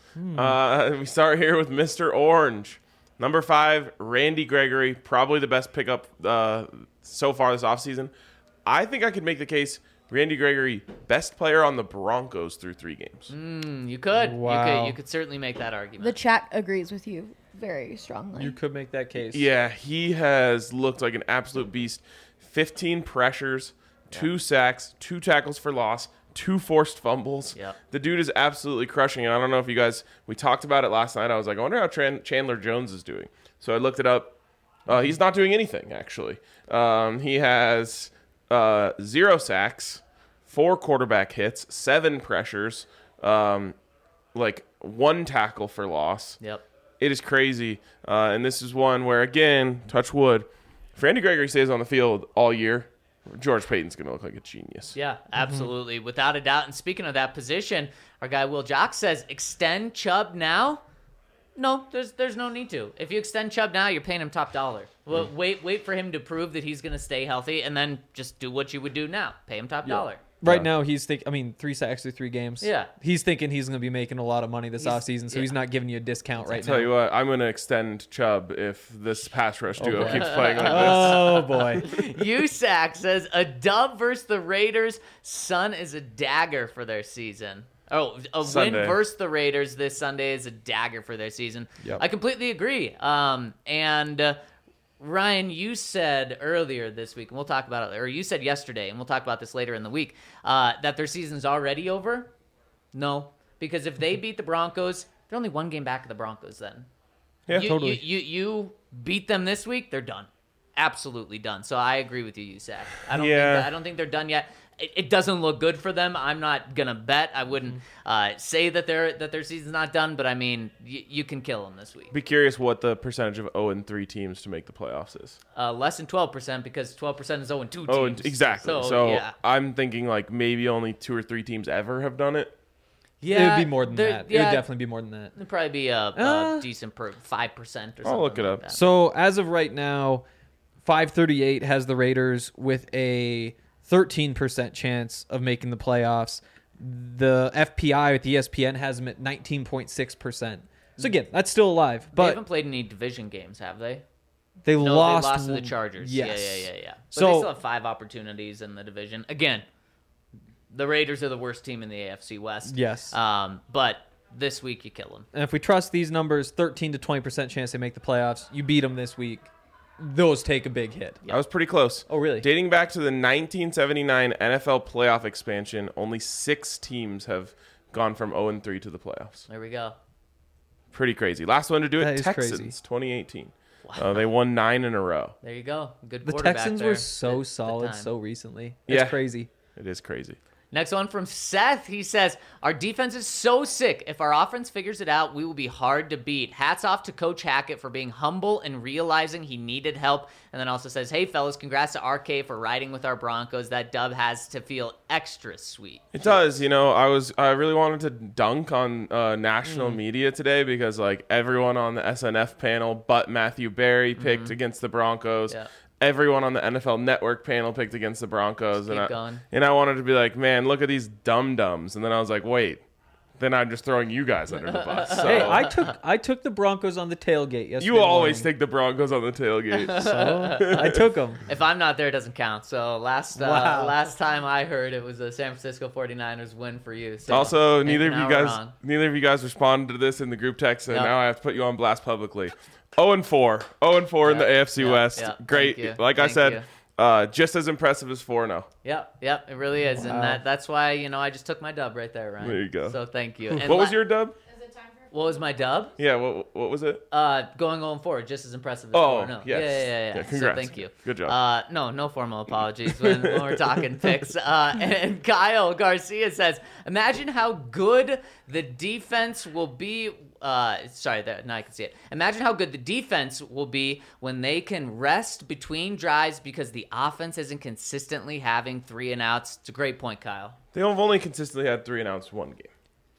Uh, we start here with Mister Orange. Number five, Randy Gregory, probably the best pickup uh, so far this offseason. I think I could make the case Randy Gregory, best player on the Broncos through three games.
Mm, you could. You
Wow.
could. You could certainly make that argument.
The chat agrees with you very strongly.
You could make that case.
Yeah, he has looked like an absolute beast. fifteen pressures, two sacks, two tackles for loss, two forced fumbles.
Yep.
The dude is absolutely crushing it. I don't know if you guys, we talked about it last night. I was like, I wonder how Tran- Chandler Jones is doing. So I looked it up. Uh, he's not doing anything, actually. Um, he has uh, zero sacks, four quarterback hits, seven pressures, um, like one tackle for loss.
Yep.
It is crazy. Uh, and this is one where, again, touch wood, if Randy Gregory stays on the field all year, George Payton's going to look like a genius.
Yeah, absolutely, without a doubt. And speaking of that position, our guy Will Jock says, extend Chubb now. No, there's there's no need to. If you extend Chubb now, you're paying him top dollar. Well, wait wait for him to prove that he's going to stay healthy, and then just do what you would do now. Pay him top dollar.
Right
Yeah.
now, he's think. I mean, three sacks through three games.
Yeah.
He's thinking he's going to be making a lot of money this
He's-
offseason, so
yeah.
he's not giving you a discount right
Tell
now.
you what, I'm going to extend Chubb if this pass rush duo
boy.
keeps playing like this.
Oh boy.
USAC says a dub versus the Raiders. Sun is a dagger for their season. Oh, a
Sunday.
win versus the Raiders this Sunday is a dagger for their season.
Yep.
I completely agree. Um, and uh, Ryan, you said earlier this week, and we'll talk about it, or you said yesterday, and we'll talk about this later in the week, uh, that their season's already over. No, because if they beat the Broncos, they're only one game back of the Broncos. Then,
Yeah,
you,
totally.
You, you you beat them this week, they're done, absolutely done. So I agree with you, Usac. I don't
Yeah.
think that, I don't think they're done yet. It, it doesn't look good for them. I'm not gonna bet. I wouldn't uh, say that their that their season's not done, but I mean, y- you can kill them this week.
Be curious what the percentage of oh and three teams to make the playoffs is.
Uh, less than twelve percent because twelve percent is oh and two teams.
Oh, and- exactly.
So,
So,
yeah.
I'm thinking like maybe only two or three teams ever have done it.
it would be more than
there-
that. It
Yeah,
would definitely be more than that.
it'd probably be a, a
Uh,
decent per five percent or something.
I'll look it
like
up.
that.
So as of right now, five thirty-eight has the Raiders with a thirteen percent chance of making the playoffs. The F P I with E S P N has them at nineteen point six percent. So again, that's still alive.
they
But
haven't played any division games, have they?
They
No,
lost.
they lost to the
one-
Chargers.
Yes.
Yeah, yeah, yeah, yeah. But
So-
they still have five opportunities in the division. Again, the Raiders are the worst team in the A F C West.
Yes.
Um, but this week you kill them.
And if we trust these numbers, thirteen to twenty percent chance they make the playoffs. You beat them this week. Those take a big hit.
I was pretty close.
Oh, really?
Dating back to the nineteen seventy-nine N F L playoff expansion, only six teams have gone from oh and three to the playoffs.
There we go.
Pretty crazy. Last one to do it,
That is
Texans,
crazy.
twenty eighteen. Uh, they won nine in a row.
There you go. Good
The
quarterback
Texans
there
were
at
so
the
solid
time.
so recently. It's
Yeah.
crazy.
It is crazy.
Next one from Seth. He says, our defense is so sick. If our offense figures it out, we will be hard to beat. Hats off to Coach Hackett for being humble and realizing he needed help. And then also says, hey, fellas, congrats to R K for riding with our Broncos. That dub has to feel extra sweet.
It does. You know, I was I really wanted to dunk on uh, national media today because like everyone on the S N F panel but Matthew Berry picked against the Broncos.
Yeah.
Everyone on the N F L Network panel picked against the Broncos, and
keep
I,
going.
and I wanted to be like, man, look at these dum dums, and then I was like, wait, then I'm just throwing you guys under the bus. So.
Hey, I took I took the Broncos on the tailgate yesterday.
you always
morning.
take the Broncos on the tailgate.
So, I took them.
If I'm not there, it doesn't count. So last uh,
Wow.
last time I heard it was a San Francisco forty-niners win for you. So
Also,
maybe
neither of
now
you
we're
guys,
wrong.
neither of you guys responded to this in the group text, and
Yep.
now I have to put you on blast publicly. oh and four, oh and four in the
Yep,
A F C
yep,
West.
yep.
Great.
Thank you.
Like I
Thank
said,
you.
uh, just as impressive as four and oh.
Yep, yep, it really is, and that that's why you know I just took my dub right there, Ryan.
There you go.
So thank you. And
What was
la-
your dub?
What was my dub?
Yeah, what what was it?
Uh, going on forward, just as impressive as
Oh,
four. No.
yes.
Yeah, yeah, yeah, yeah.
Yeah, congrats.
So thank you.
Good job.
Uh, no, no formal apologies when, when we're talking picks. Uh, and, and Kyle Garcia says, imagine how good the defense will be. Uh, sorry, there, now I can see it. Imagine how good the defense will be when they can rest between drives because the offense isn't consistently having three and outs. It's a great point, Kyle.
They have only consistently had three and outs one game.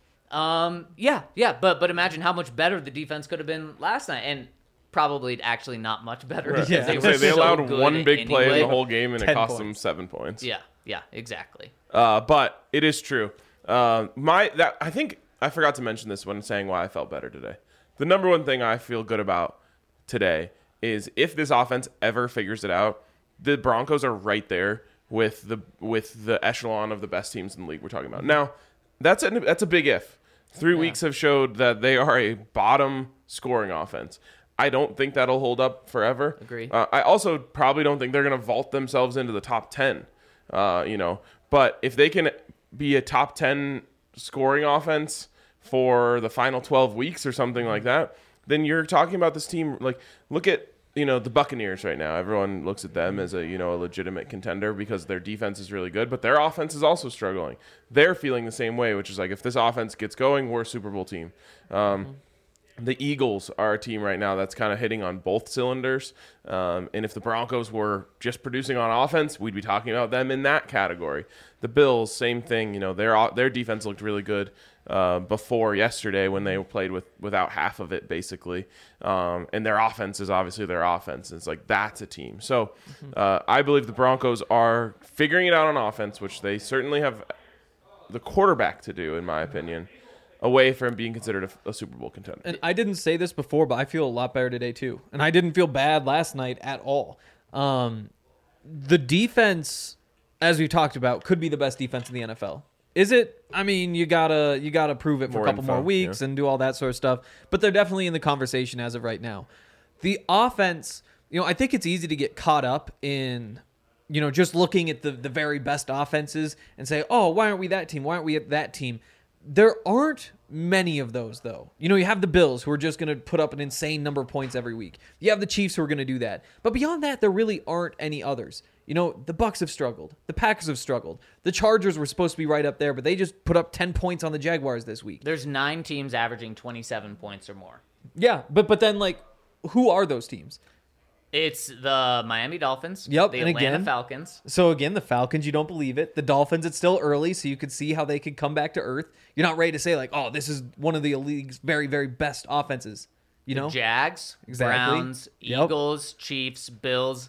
Um, yeah, yeah, but but imagine how much better the defense could have been last night, and probably actually not much better.
Right.
because
Yeah.
they,
They,
were
they
so
allowed
good
one big play in
anyway.
the whole game, and it
ten
cost them
points.
seven points.
Yeah, yeah, exactly.
Uh, but it is true. Uh, my that I think I forgot to mention this when saying why I felt better today. The number one thing I feel good about today is if this offense ever figures it out, the Broncos are right there with the with the echelon of the best teams in the league we're talking about. Now, that's a, that's a big if. Three weeks have showed that they are a bottom scoring offense. I don't think that'll hold up forever.
Agree.
Uh, I also probably don't think they're going to vault themselves into the top ten. Uh, you know, but if they can be a top ten scoring offense for the final twelve weeks or something like that, then you're talking about this team. Like, look at, you know, the Buccaneers right now. Everyone looks at them as a, you know, a legitimate contender because their defense is really good, but their offense is also struggling. They're feeling the same way, which is like, if this offense gets going, we're a Super Bowl team. Um, The Eagles are a team right now that's kind of hitting on both cylinders. Um, and if the Broncos were just producing on offense, we'd be talking about them in that category. The Bills, same thing. You know, their their defense looked really good uh, before yesterday when they played with without half of it, basically. Um, and their offense is obviously their offense. It's like, that's a team. So uh, I believe the Broncos are figuring it out on offense, which they certainly have the quarterback to do, in my opinion, away from being considered a, a Super Bowl contender.
And I didn't say this before, but I feel a lot better today too. And I didn't feel bad last night at all. Um, the defense, as we talked about, could be the best defense in the N F L. Is it? I mean, you gotta you gotta prove it for
More
a couple
info,
more weeks
yeah.
and do all that sort of stuff. But they're definitely in the conversation as of right now. The offense, you know, I think it's easy to get caught up in, you know, just looking at the the very best offenses and say, oh, why aren't we that team? Why aren't we at that team? There aren't many of those, though. You know, you have the Bills, who are just going to put up an insane number of points every week. You have the Chiefs, who are going to do that. But beyond that, there really aren't any others. You know, the Bucks have struggled. The Packers have struggled. The Chargers were supposed to be right up there, but they just put up ten points on the Jaguars this week.
There's nine teams averaging twenty-seven points or more.
Yeah, but but then, like, who are those teams?
It's the Miami Dolphins.
Yep,
The
and
Atlanta
again-
Falcons.
So again, the Falcons, you don't believe it. The Dolphins, it's still early, so you could see how they could come back to earth. You're not ready to say, like, oh, this is one of the league's very, very best offenses. You know?
Jags,
Exactly.
Browns,
Yep.
Eagles, Chiefs, Bills,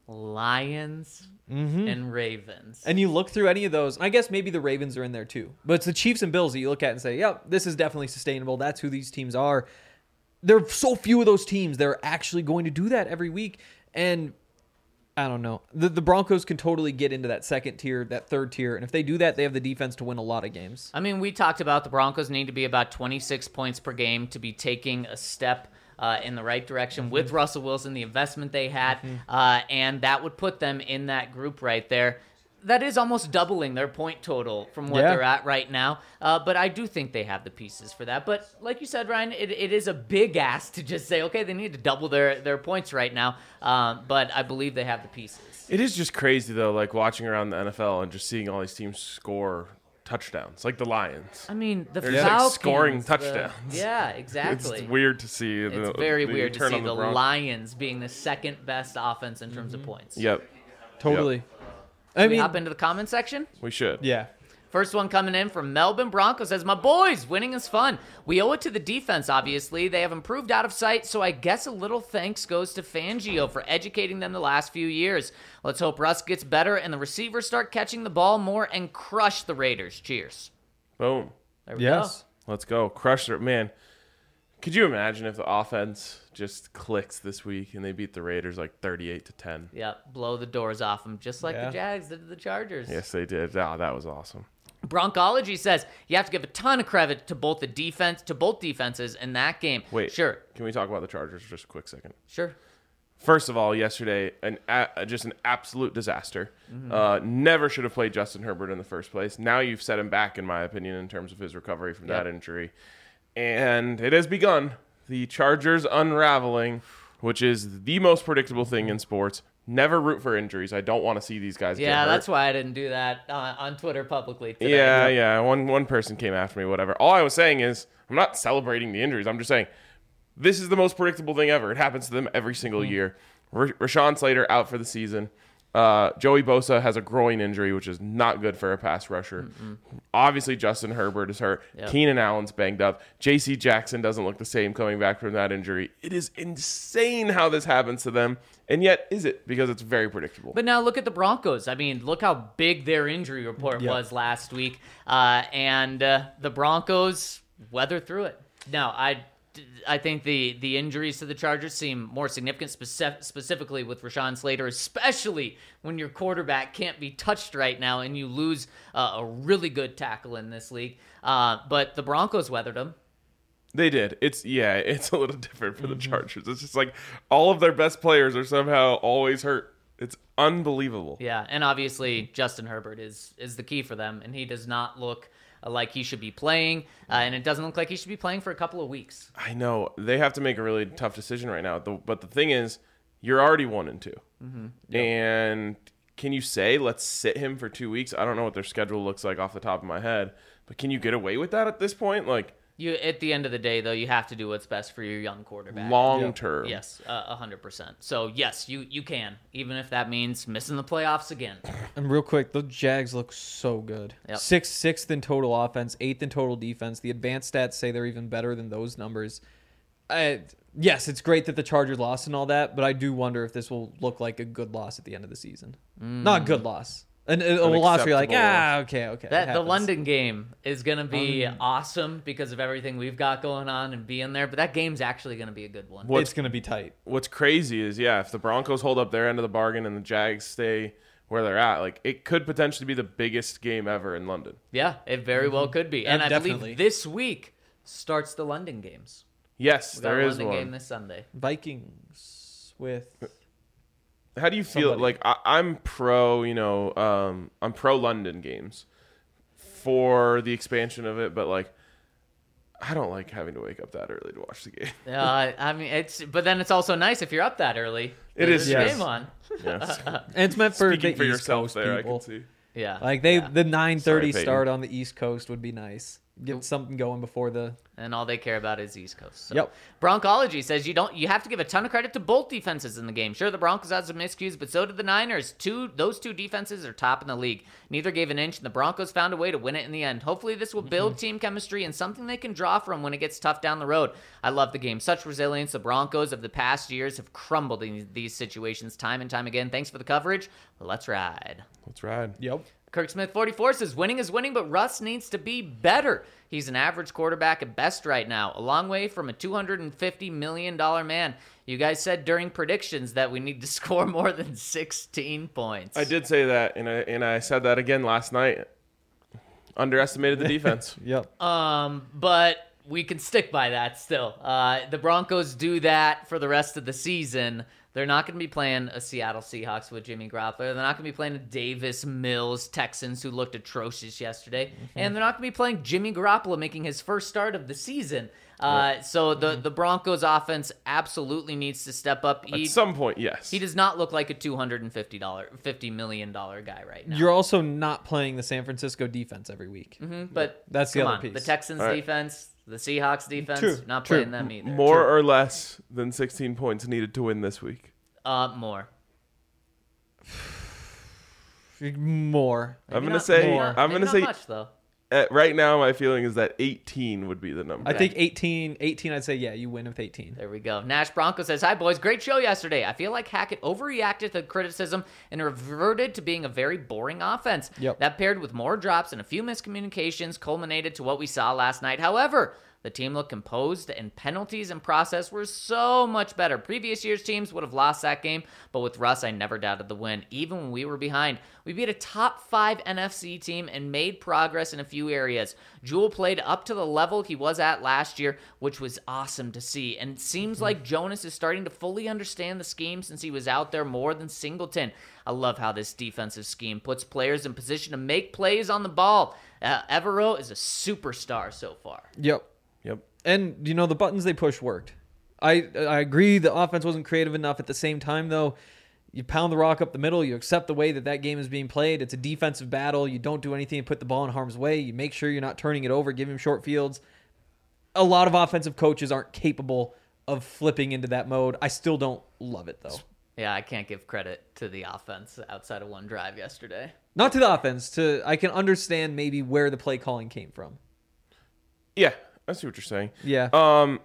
Lions, and Ravens.
And you look through any of those, and I guess maybe the Ravens are in there too. But it's the Chiefs and Bills that you look at and say, yep, this is definitely sustainable. That's who these teams are. there are so few of those teams that are actually going to do that every week. And I don't know. The, the Broncos can totally get into that second tier, that third tier. And if they do that, they have the defense to win a lot of games.
I mean, we talked about the Broncos need to be about twenty-six points per game to be taking a step uh, in the right direction mm-hmm. with Russell Wilson, the investment they had. Mm-hmm. Uh, and that would put them in that group right there. That is almost doubling their point total from what
Yeah.
they're at right now. Uh, but I do think they have the pieces for that. But like you said, Ryan, it, it is a big ask to just say, okay, they need to double their, their points right now. Um, but I believe they have the pieces.
It is just crazy, though, like watching around the N F L and just seeing all these teams score touchdowns, like the Lions.
I mean, the
They're just, like,
Falcons.
scoring
the-
touchdowns.
yeah, exactly.
It's weird to see.
It's
the,
very
the
weird to
turn
see
on
the,
Broncos.
Lions being the second best offense in terms of points.
Yep,
Totally. I
Should we
mean,
hop into the comment section?
we should.
yeah.
First one coming in from Melbourne Broncos says, my boys, winning is fun. We owe it to the defense, obviously. They have improved out of sight, so I guess a little thanks goes to Fangio for educating them the last few years. Let's hope Russ gets better and the receivers start catching the ball more and crush the Raiders. Cheers.
Boom.
There we
Yes.
Let's go. Crush it. Man, could you imagine if the offense just clicks this week and they beat the Raiders like thirty-eight to ten?
go. Yep, blow the doors off them, just like
Yeah.
the Jags did to the Chargers.
Yes, they did. Oh, that was awesome.
Broncology says you have to give a ton of credit to both the defense, to both defenses in that game.
Wait.
Sure,
Can we talk about the Chargers for just a quick second?
sure.
First of all, yesterday, an a, just an absolute disaster.
Mm-hmm.
Uh, never should have played Justin Herbert in the first place. Now you've set him back, in my opinion, in terms of his recovery from that
Yep.
injury. And it has begun. The Chargers unraveling, which is the most predictable thing in sports. Never root for injuries. I don't want to see these guys get
Yeah,
hurt.
that's why I didn't do that uh, on Twitter publicly today.
Yeah, yeah. One one person came after me, whatever. All I was saying is I'm not celebrating the injuries. I'm just saying this is the most predictable thing ever. It happens to them every single
Mm-hmm.
year. R- Rashawn Slater out for the season. Uh, Joey Bosa has a groin injury, which is not good for a pass rusher.
Mm-mm.
Obviously, Justin Herbert is hurt.
Yep.
Keenan Allen's banged up. J C Jackson doesn't look the same coming back from that injury. It is insane how this happens to them. And yet, is it? Because it's very predictable.
But now look at the Broncos. I mean, look how big their injury report
Yeah.
was last week. Uh, and uh, the Broncos weather through it. Now, I, I think the, the injuries to the Chargers seem more significant, speci- specifically with Rashawn Slater, especially when your quarterback can't be touched right now and you lose uh, a really good tackle in this league. Uh, but the Broncos weathered them.
They did. It's yeah, it's a little different for the Chargers. It's just like all of their best players are somehow always hurt. It's unbelievable.
Yeah, and obviously Justin Herbert is is the key for them, and he does not look uh, like he should be playing, uh, and it doesn't look like he should be playing for a couple of weeks.
I know. They have to make a really tough decision right now. The, but the thing is, you're already one and two. Mm-hmm. And can you say, let's sit him for two weeks? I don't know what their schedule looks like off the top of my head, but can you get away with that at this point? Like,
You at the end of the day, though, you have to do what's best for your young quarterback.
long
Yep.
term.
Yes, a hundred percent. So yes, you you can, even if that means missing the playoffs again.
And real quick, the Jags look so good.
Yep.
Sixth, sixth in total offense, eighth in total defense. The advanced stats say they're even better than those numbers. I, yes, it's great that the Chargers lost and all that, but I do wonder if this will look like a good loss at the end of the season. Not a good loss. An, a, a loss where you're like,
acceptable
ah,
loss.
okay, okay. it
That the
happens.
London game is gonna be awesome because of everything we've got going on and being there. But that game's actually gonna be a good one.
What's
It's going to be tight.
What's crazy is, yeah, if the Broncos hold up their end of the bargain and the Jags stay where they're at, like it could potentially be the biggest game ever in London.
Yeah, it very well could be. And
Uh,
I
definitely.
believe this week starts the London games.
Yes,
We got
there
a
is
London
one.
game this Sunday.
Vikings with.
How do you feel?
Somebody.
Like I, I'm pro, you know, um, I'm pro London games for the expansion of it, but like I don't like having to wake up that early to watch the game.
Uh, I mean, it's but then it's also nice if you're up that early.
It
There's
is,
a
yes.
game on.
Yes.
And it's meant for
Speaking
the
for
East
yourself
Coast
there,
people.
I can see.
Yeah,
Like they,
yeah.
the nine thirty
Sorry, Peyton.
start on the East Coast would be nice. Get something going before the.
and all they care about is East Coast. So.
Yep.
Broncology says you don't. You have to give a ton of credit to both defenses in the game. Sure, the Broncos had some miscues, but so did the Niners. Two, those two defenses are top in the league. Neither gave an inch, and the Broncos found a way to win it in the end. Hopefully, this will build team chemistry and something they can draw from when it gets tough down the road. I love the game. Such resilience. The Broncos of the past years have crumbled in these situations time and time again. Thanks for the coverage. Let's ride.
Let's ride.
Yep.
Kirk Smith forty-four says, winning is winning, but Russ needs to be better. He's an average quarterback at best right now, a long way from a two hundred fifty million dollars man. You guys said during predictions that we need to score more than sixteen points.
I did say that, and I, and I said that again last night. Underestimated the defense.
Yep.
Um, but we can stick by that still. Uh, the Broncos do that for the rest of the season. They're not going to be playing a Seattle Seahawks with Jimmy Garoppolo. They're not going to be playing a Davis Mills Texans who looked atrocious yesterday. Mm-hmm. And they're not going to be playing Jimmy Garoppolo making his first start of the season. Uh, yep. So the, the Broncos offense absolutely needs to step up. He,
At some point, yes.
He does not look like a two hundred fifty million dollars guy right now.
You're also not playing the San Francisco defense every week.
Mm-hmm, but
that's the
come
other
on,
piece.
The Texans
right.
defense, the Seahawks defense,
True,
not
true.
playing them either.
More true. or less than sixteen points needed to win this week.
Uh, more.
More.
Maybe I'm gonna
not,
say.
more.
I'm
Maybe
gonna
not
say.
Much, though.
Uh, right now, my feeling is that eighteen would be the number.
I think eighteen, eighteen, I'd say, yeah, you win with eighteen.
There we go. Nash Bronco says, hi, boys. Great show yesterday. I feel like Hackett overreacted to criticism and reverted to being a very boring offense.
Yep.
That paired with more drops and a few miscommunications culminated to what we saw last night. However, the team looked composed, and penalties and process were so much better. Previous year's teams would have lost that game, but with Russ, I never doubted the win, even when we were behind. We beat a top five N F C team and made progress in a few areas. Jewel played up to the level he was at last year, which was awesome to see. And it seems like Jonas is starting to fully understand the scheme since he was out there more than Singleton. I love how this defensive scheme puts players in position to make plays on the ball. Uh, Evero is a superstar so far.
Yep.
Yep.
And, you know, the buttons they pushed worked. I I agree the offense wasn't creative enough. At the same time, though, you pound the rock up the middle. You accept the way that that game is being played. It's a defensive battle. You don't do anything to put the ball in harm's way. You make sure you're not turning it over, give him short fields. A lot of offensive coaches aren't capable of flipping into that mode. I still don't love it, though.
Yeah, I can't give credit to the offense outside of one drive yesterday.
Not to the offense. To I can understand maybe where the play calling came from.
Yeah, I see what you're saying.
Yeah.
Um,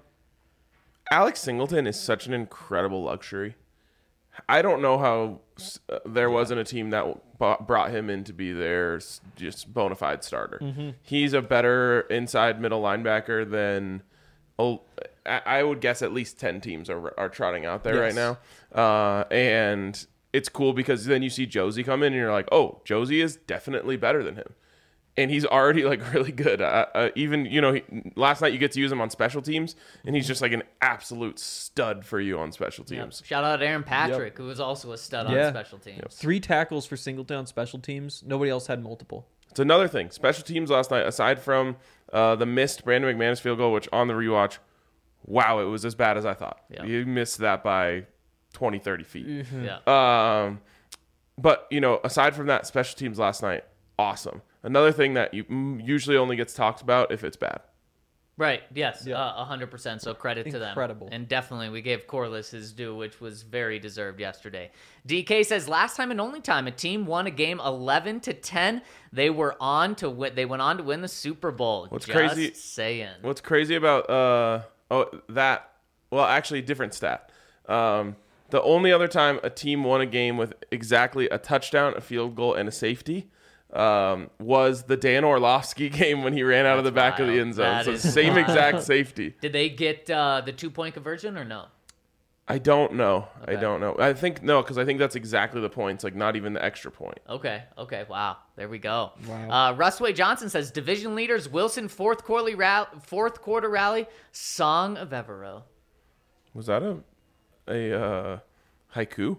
Alex Singleton is such an incredible luxury. I don't know how uh, there wasn't a team that b- brought him in to be their s- just bona fide starter.
Mm-hmm.
He's a better inside middle linebacker than oh, I I would guess at least ten teams are are trotting out there
Yes.
right now. Uh, and it's cool because then you see Josie come in and you're like, oh, Josie is definitely better than him. And he's already like really good. Uh, uh, even you know, he, last night you get to use him on special teams, and he's just like an absolute stud for you on special teams.
Yep. Shout out Aaron Patrick, who was also a stud
Yeah.
on special teams. Yep.
Three tackles for Singleton on special teams. Nobody else had multiple.
It's another thing. Special teams last night, aside from uh, the missed Brandon McManus field goal, which on the rewatch, wow, it was as bad as I thought.
Yeah.
You missed that by twenty, thirty feet.
Mm-hmm.
Yeah.
Um, but you know, aside from that, special teams last night, awesome. Another thing that you mm, usually only gets talked about if it's bad.
Right. Yes.
Yeah.
Uh, one hundred percent. So credit to them.
Incredible.
And definitely we gave Corliss his due, which was very deserved yesterday. D K says last time and only time a team won a game eleven to ten, they were on to win. They went on to win the Super Bowl.
What's
Just
crazy?
Saying.
What's crazy about uh oh that well actually different stat. Um, the only other time a team won a game with exactly a touchdown, a field goal, and a safety. Um, was the Dan Orlovsky game when he ran out of the
That's
back of the
wild.
end zone.
That
So
is
same
wild.
exact safety.
Did they get uh, the two point conversion or no?
I don't know. I
Okay.
don't know. I think no, because I think that's exactly the points. Like not even the extra point.
Okay. Okay. Wow. There we go.
Wow.
Uh, Russway Johnson says division leaders Wilson fourth quarter rally, fourth quarter rally song of Evero.
Was that a a uh, haiku?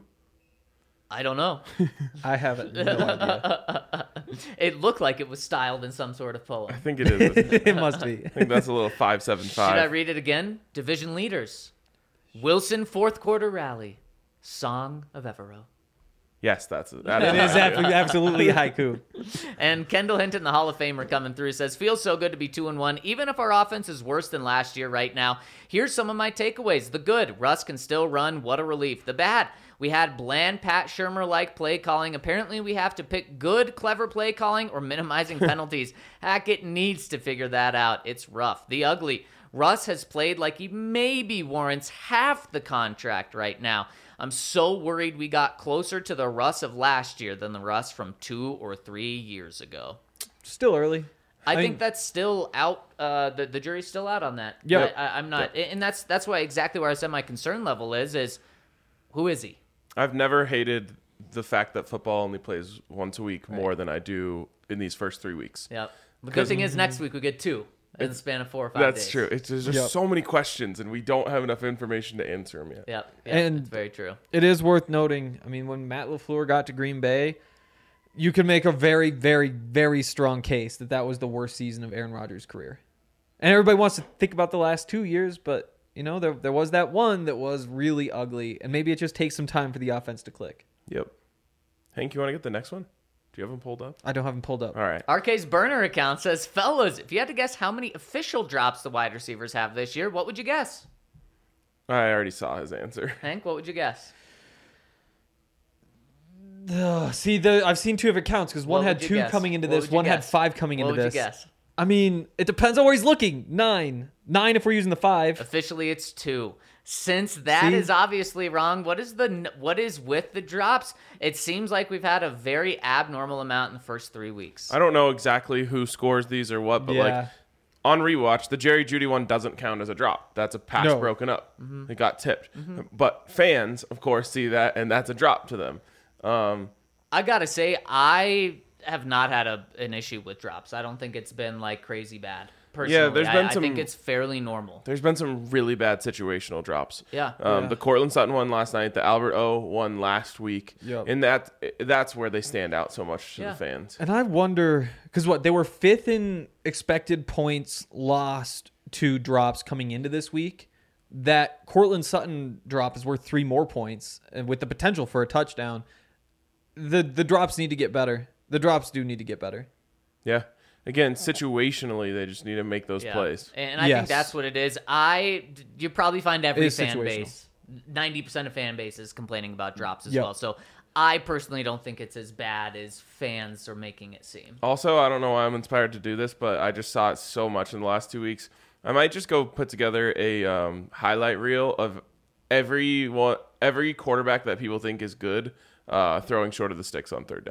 I don't know.
I have no idea.
It looked like it was styled in some sort of poem.
I think it is. I
It must be.
think that's a little five seven
Should I
five.
read it again? Division leaders. Wilson fourth quarter rally. Song of Evero.
Yes, that's it. That
It is
haiku.
ab- absolutely haiku.
And Kendall Hinton, the Hall of Famer, coming through, says, feels so good to be two and one, even if our offense is worse than last year right now. Here's some of my takeaways. The good, Russ can still run. What a relief. The bad, we had bland Pat Shurmur-like play calling. Apparently, we have to pick good, clever play calling or minimizing penalties. Hackett needs to figure that out. It's rough. The ugly, Russ has played like he maybe warrants half the contract right now. I'm so worried we got closer to the Russ of last year than the Russ from two or three years ago.
Still early.
I,
I
think
mean-
that's still out. Uh, the the jury's still out on that.
Yep.
I, I, I'm not, and that's that's why exactly where I said my concern level is. Is who is he?
I've never hated the fact that football only plays once a week more than I do in these first three weeks.
Yep. The good thing is next week we get two in the span of four or five
That's
days.
true. It's, there's just
Yep.
so many questions, and we don't have enough information to answer them yet.
Yep. Yep.
And-
It's very true.
It is worth noting. I mean, when Matt LaFleur got to Green Bay, you could make a very, very, very strong case that that was the worst season of Aaron Rodgers' career. And everybody wants to think about the last two years, but, you know, there, there was that one that was really ugly, and maybe it just takes some time for the offense to click.
Yep. Hank, you want to get the next one? Do you have them pulled up?
I don't have them pulled up.
All right.
R K's burner account says, fellas, if you had to guess how many official drops the wide receivers have this year, what would you guess?
I already saw his answer.
Hank, what would you guess?
Ugh, see, the I've seen two of accounts because one
What
had
would you
two
guess?
coming into
What
this,
would you
one had
guess?
five coming
What
into
would
this.
you guess?
I mean, it depends on where he's looking. Nine. Nine if we're using the five.
Officially, it's two. Since that is
See?
obviously wrong, what is the what is with the drops? It seems like we've had a very abnormal amount in the first three weeks.
I don't know exactly who scores these or what, but like
Yeah.
on rewatch, the Jerry Jeudy one doesn't count as a drop. That's a pass
No.
broken up.
Mm-hmm.
It got tipped. But fans, of course, see that, and that's a drop to them. Um,
I gotta say, I have not had a an issue with drops. I don't think it's been like crazy bad. Personally,
there's been
I,
some-
I think it's fairly normal.
there's been some really bad situational drops.
Yeah.
Um,
Yeah.
The Cortland Sutton one last night, the Albert O one last week.
Yep.
And that that's where they stand out so much to
Yeah.
the fans.
And I wonder, because what, they were fifth in expected points lost to drops coming into this week. That Cortland Sutton drop is worth three more points and with the potential for a touchdown. The the drops need to get better. The drops do need to get better.
Yeah. Again, situationally, they just need to make those
Yeah.
plays.
And I
Yes.
think that's what it is. I you probably find every
It is
fan
situational.
base, ninety percent of fan bases complaining about drops as
Yep.
well. So I personally don't think it's as bad as fans are making it seem.
Also, I don't know why I'm inspired to do this, but I just saw it so much in the last two weeks. I might just go put together a um, highlight reel of every one, every quarterback that people think is good uh, throwing short of the sticks on third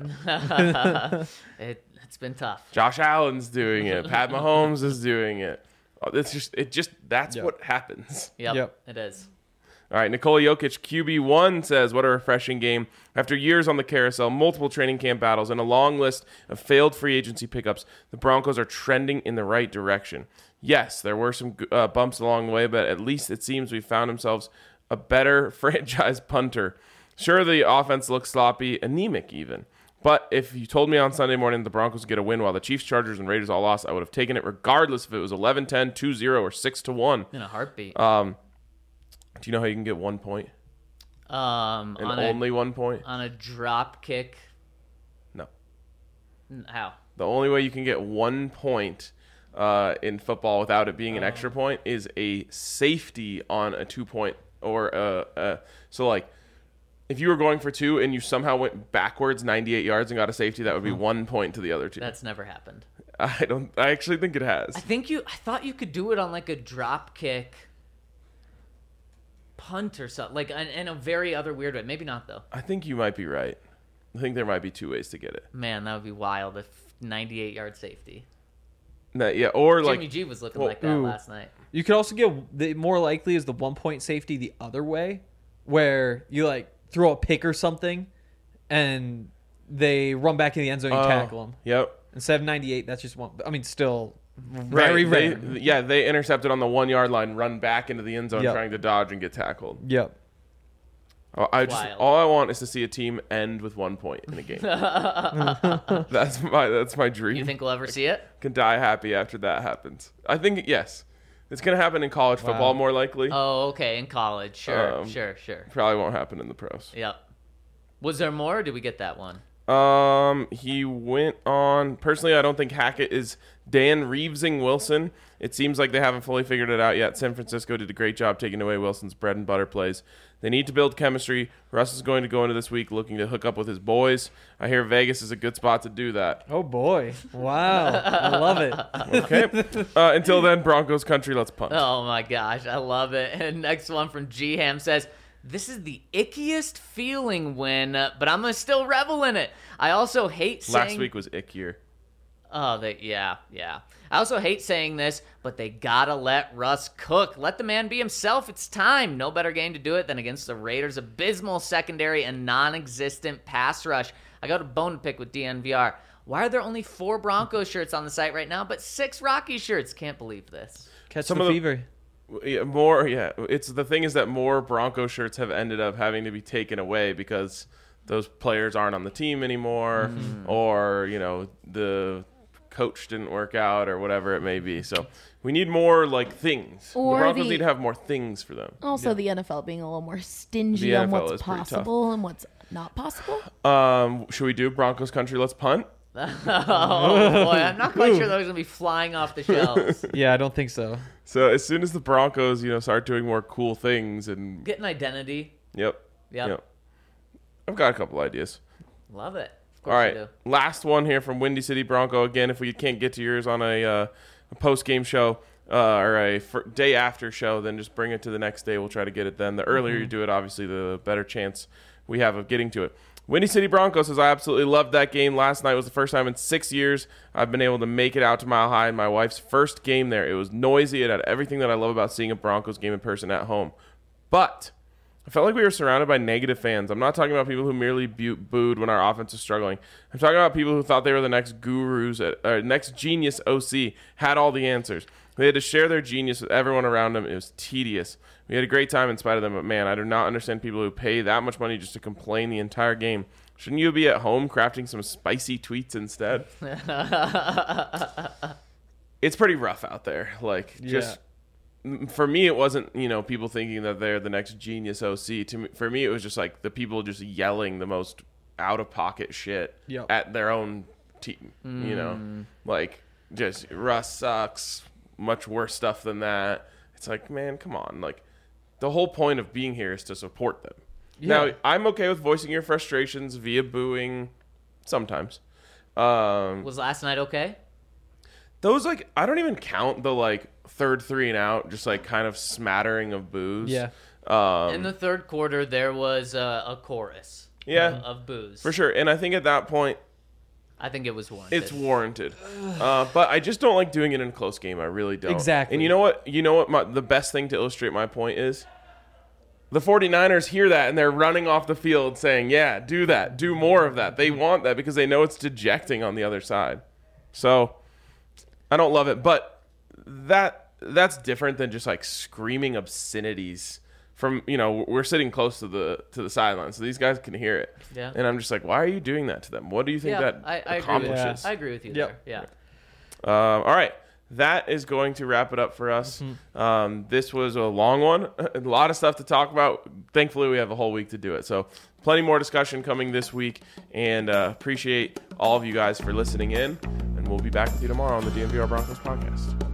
down.
It it's been tough.
Josh Allen's doing it. Pat Mahomes is doing it. Oh, It's just it just that's
Yep.
what happens.
Yep,
Yep.
it is.
All right, Nikola Jokic, Q B one, says, what a refreshing game. After years on the carousel, multiple training camp battles, and a long list of failed free agency pickups, the Broncos are trending in the right direction. Yes, there were some uh, bumps along the way, but at least it seems we found ourselves a better franchise punter. Sure, the offense looks sloppy, anemic even. But if you told me on Sunday morning that the Broncos would get a win while the Chiefs, Chargers, and Raiders all lost, I would have taken it regardless if it was eleven ten, two zero, or six to one.
In a heartbeat.
Um, do you know how you can get one point?
um,
And
on
only
a
one point?
on a drop kick.
No.
N- How?
The only way you can get one point uh, in football without it being an extra point is a safety on a two point or a, a so like if you were going for two and you somehow went backwards ninety-eight yards and got a safety, that would be one point to the other two.
That's never happened.
I don't. I actually think it has.
I think you. I thought you could do it on like a drop kick, punt or something, like in, in a very other weird way. Maybe not though.
I think you might be right. I think there might be two ways to get it.
Man, that would be wild if ninety-eight yard safety.
No, yeah, or
Jimmy
like
G was looking
well,
like that
ooh.
last night.
You could also get the more likely is the one point safety the other way, where you like throw a pick or something, and they run back in the end zone and you
oh,
tackle them.
Yep.
Instead of ninety-eight, that's just one. I mean, still very
Right.
rare.
They, yeah, they intercepted on the one yard line, run back into the end zone,
Yep.
trying to dodge and get tackled.
Yep.
Oh, I just
Wild.
all I want is to see a team end with one point in a game. that's my that's my dream.
You think we'll ever see it?
Can die happy after that happens. I think yes, it's gonna happen in college
Wow.
football more likely.
Oh, okay. In college, sure,
Um,
sure, sure.
Probably won't happen in the pros.
Yep. Was there more? Or did we get that one?
Um, he went on. Personally, I don't think Hackett is Dan Reevesing Wilson. It seems like they haven't fully figured it out yet. San Francisco did a great job taking away Wilson's bread and butter plays. They need to build chemistry. Russ is going to go into this week looking to hook up with his boys. I hear Vegas is a good spot to do that.
Oh boy! Wow, I love it.
Okay. Uh, until then, Broncos country. Let's punt.
Oh my gosh, I love it. And next one from G Ham says, "This is the ickiest feeling when, uh, but I'm gonna still revel in it. I also hate saying."
Last week was ickier.
Oh, they, yeah, yeah. I also hate saying this, but they gotta let Russ cook. Let the man be himself. It's time. No better game to do it than against the Raiders' abysmal secondary and non-existent pass rush. I got a bone to pick with D N V R. Why are there only four Broncos shirts on the site right now, but six Rocky shirts? Can't believe this.
Catch
Some
the
of the-
fever.
Yeah, more, yeah. It's the thing is that more Bronco shirts have ended up having to be taken away because those players aren't on the team anymore,
Mm-hmm.
or you know the coach didn't work out or whatever it may be. So we need more like things.
Or
the Broncos
the-
need to have more things for them.
Also, the N F L being a little more stingy
The
on
N F L
what's
is pretty tough.
possible and what's not possible.
Um, should we do Broncos country? Let's punt.
Oh boy, I'm not quite sure those are gonna be flying off the shelves.
Yeah, I don't think so.
So as soon as the Broncos, you know, start doing more cool things and
Get an identity.
yep,
Yep.
I've got a couple ideas.
Love it. Of
All
course
right,
you do.
last one here from Windy City Bronco. Again, if we can't get to yours on a, uh, a post-game show uh, or a fir- day after show, then just bring it to the next day. We'll try to get it then. The earlier you do it, obviously, the better chance we have of getting to it. Windy City Bronco says, I absolutely loved that game. Last night was the first time in six years I've been able to make it out to Mile High in my wife's first game there. It was noisy. It had everything that I love about seeing a Broncos game in person at home. But I felt like we were surrounded by negative fans. I'm not talking about people who merely bu- booed when our offense was struggling. I'm talking about people who thought they were the next gurus, at, or next genius O C, had all the answers. They had to share their genius with everyone around them. It was tedious. We had a great time in spite of them, but man, I do not understand people who pay that much money just to complain the entire game. Shouldn't you be at home crafting some spicy tweets instead? It's pretty rough out there. Like, just... For me, it wasn't, you know, people thinking that they're the next genius O C. To me, for me, it was just like the people just yelling the most out-of-pocket shit
Yep.
at their own team, mm. you know? Like, just, Russ sucks, much worse stuff than that. It's like, man, come on. Like, the whole point of being here is to support them.
Yeah.
Now, I'm okay with voicing your frustrations via booing sometimes. Um,
Was last night okay?
those, like, I don't even count the, like, third three and out, just, like, kind of smattering of boos.
Yeah.
Um,
In the third quarter, there was a, a chorus
Yeah.
of, of boos.
for sure. And I think at that point,
I think it was warranted.
it's warranted. Uh, but I just don't like doing it in a close game. I really don't.
Exactly.
And you know what? You know what? My, the best thing to illustrate my point is the 49ers hear that and they're running off the field saying, yeah, do that. Do more of that. They want that because they know it's dejecting on the other side. So I don't love it. But that that's different than just like screaming obscenities from, you know, we're sitting close to the to the sideline, so these guys can hear it.
Yeah.
And I'm just like, why are you doing that to them? What do you think
Yeah,
that
I, I agree with
accomplishes?
you. I agree with you
Yep.
there. Yeah.
Um, all right. That is going to wrap it up for us. Um, this was a long one. A lot of stuff to talk about. Thankfully, we have a whole week to do it. So plenty more discussion coming this week. And uh, appreciate all of you guys for listening in. And we'll be back with you tomorrow on the D M V R Broncos podcast.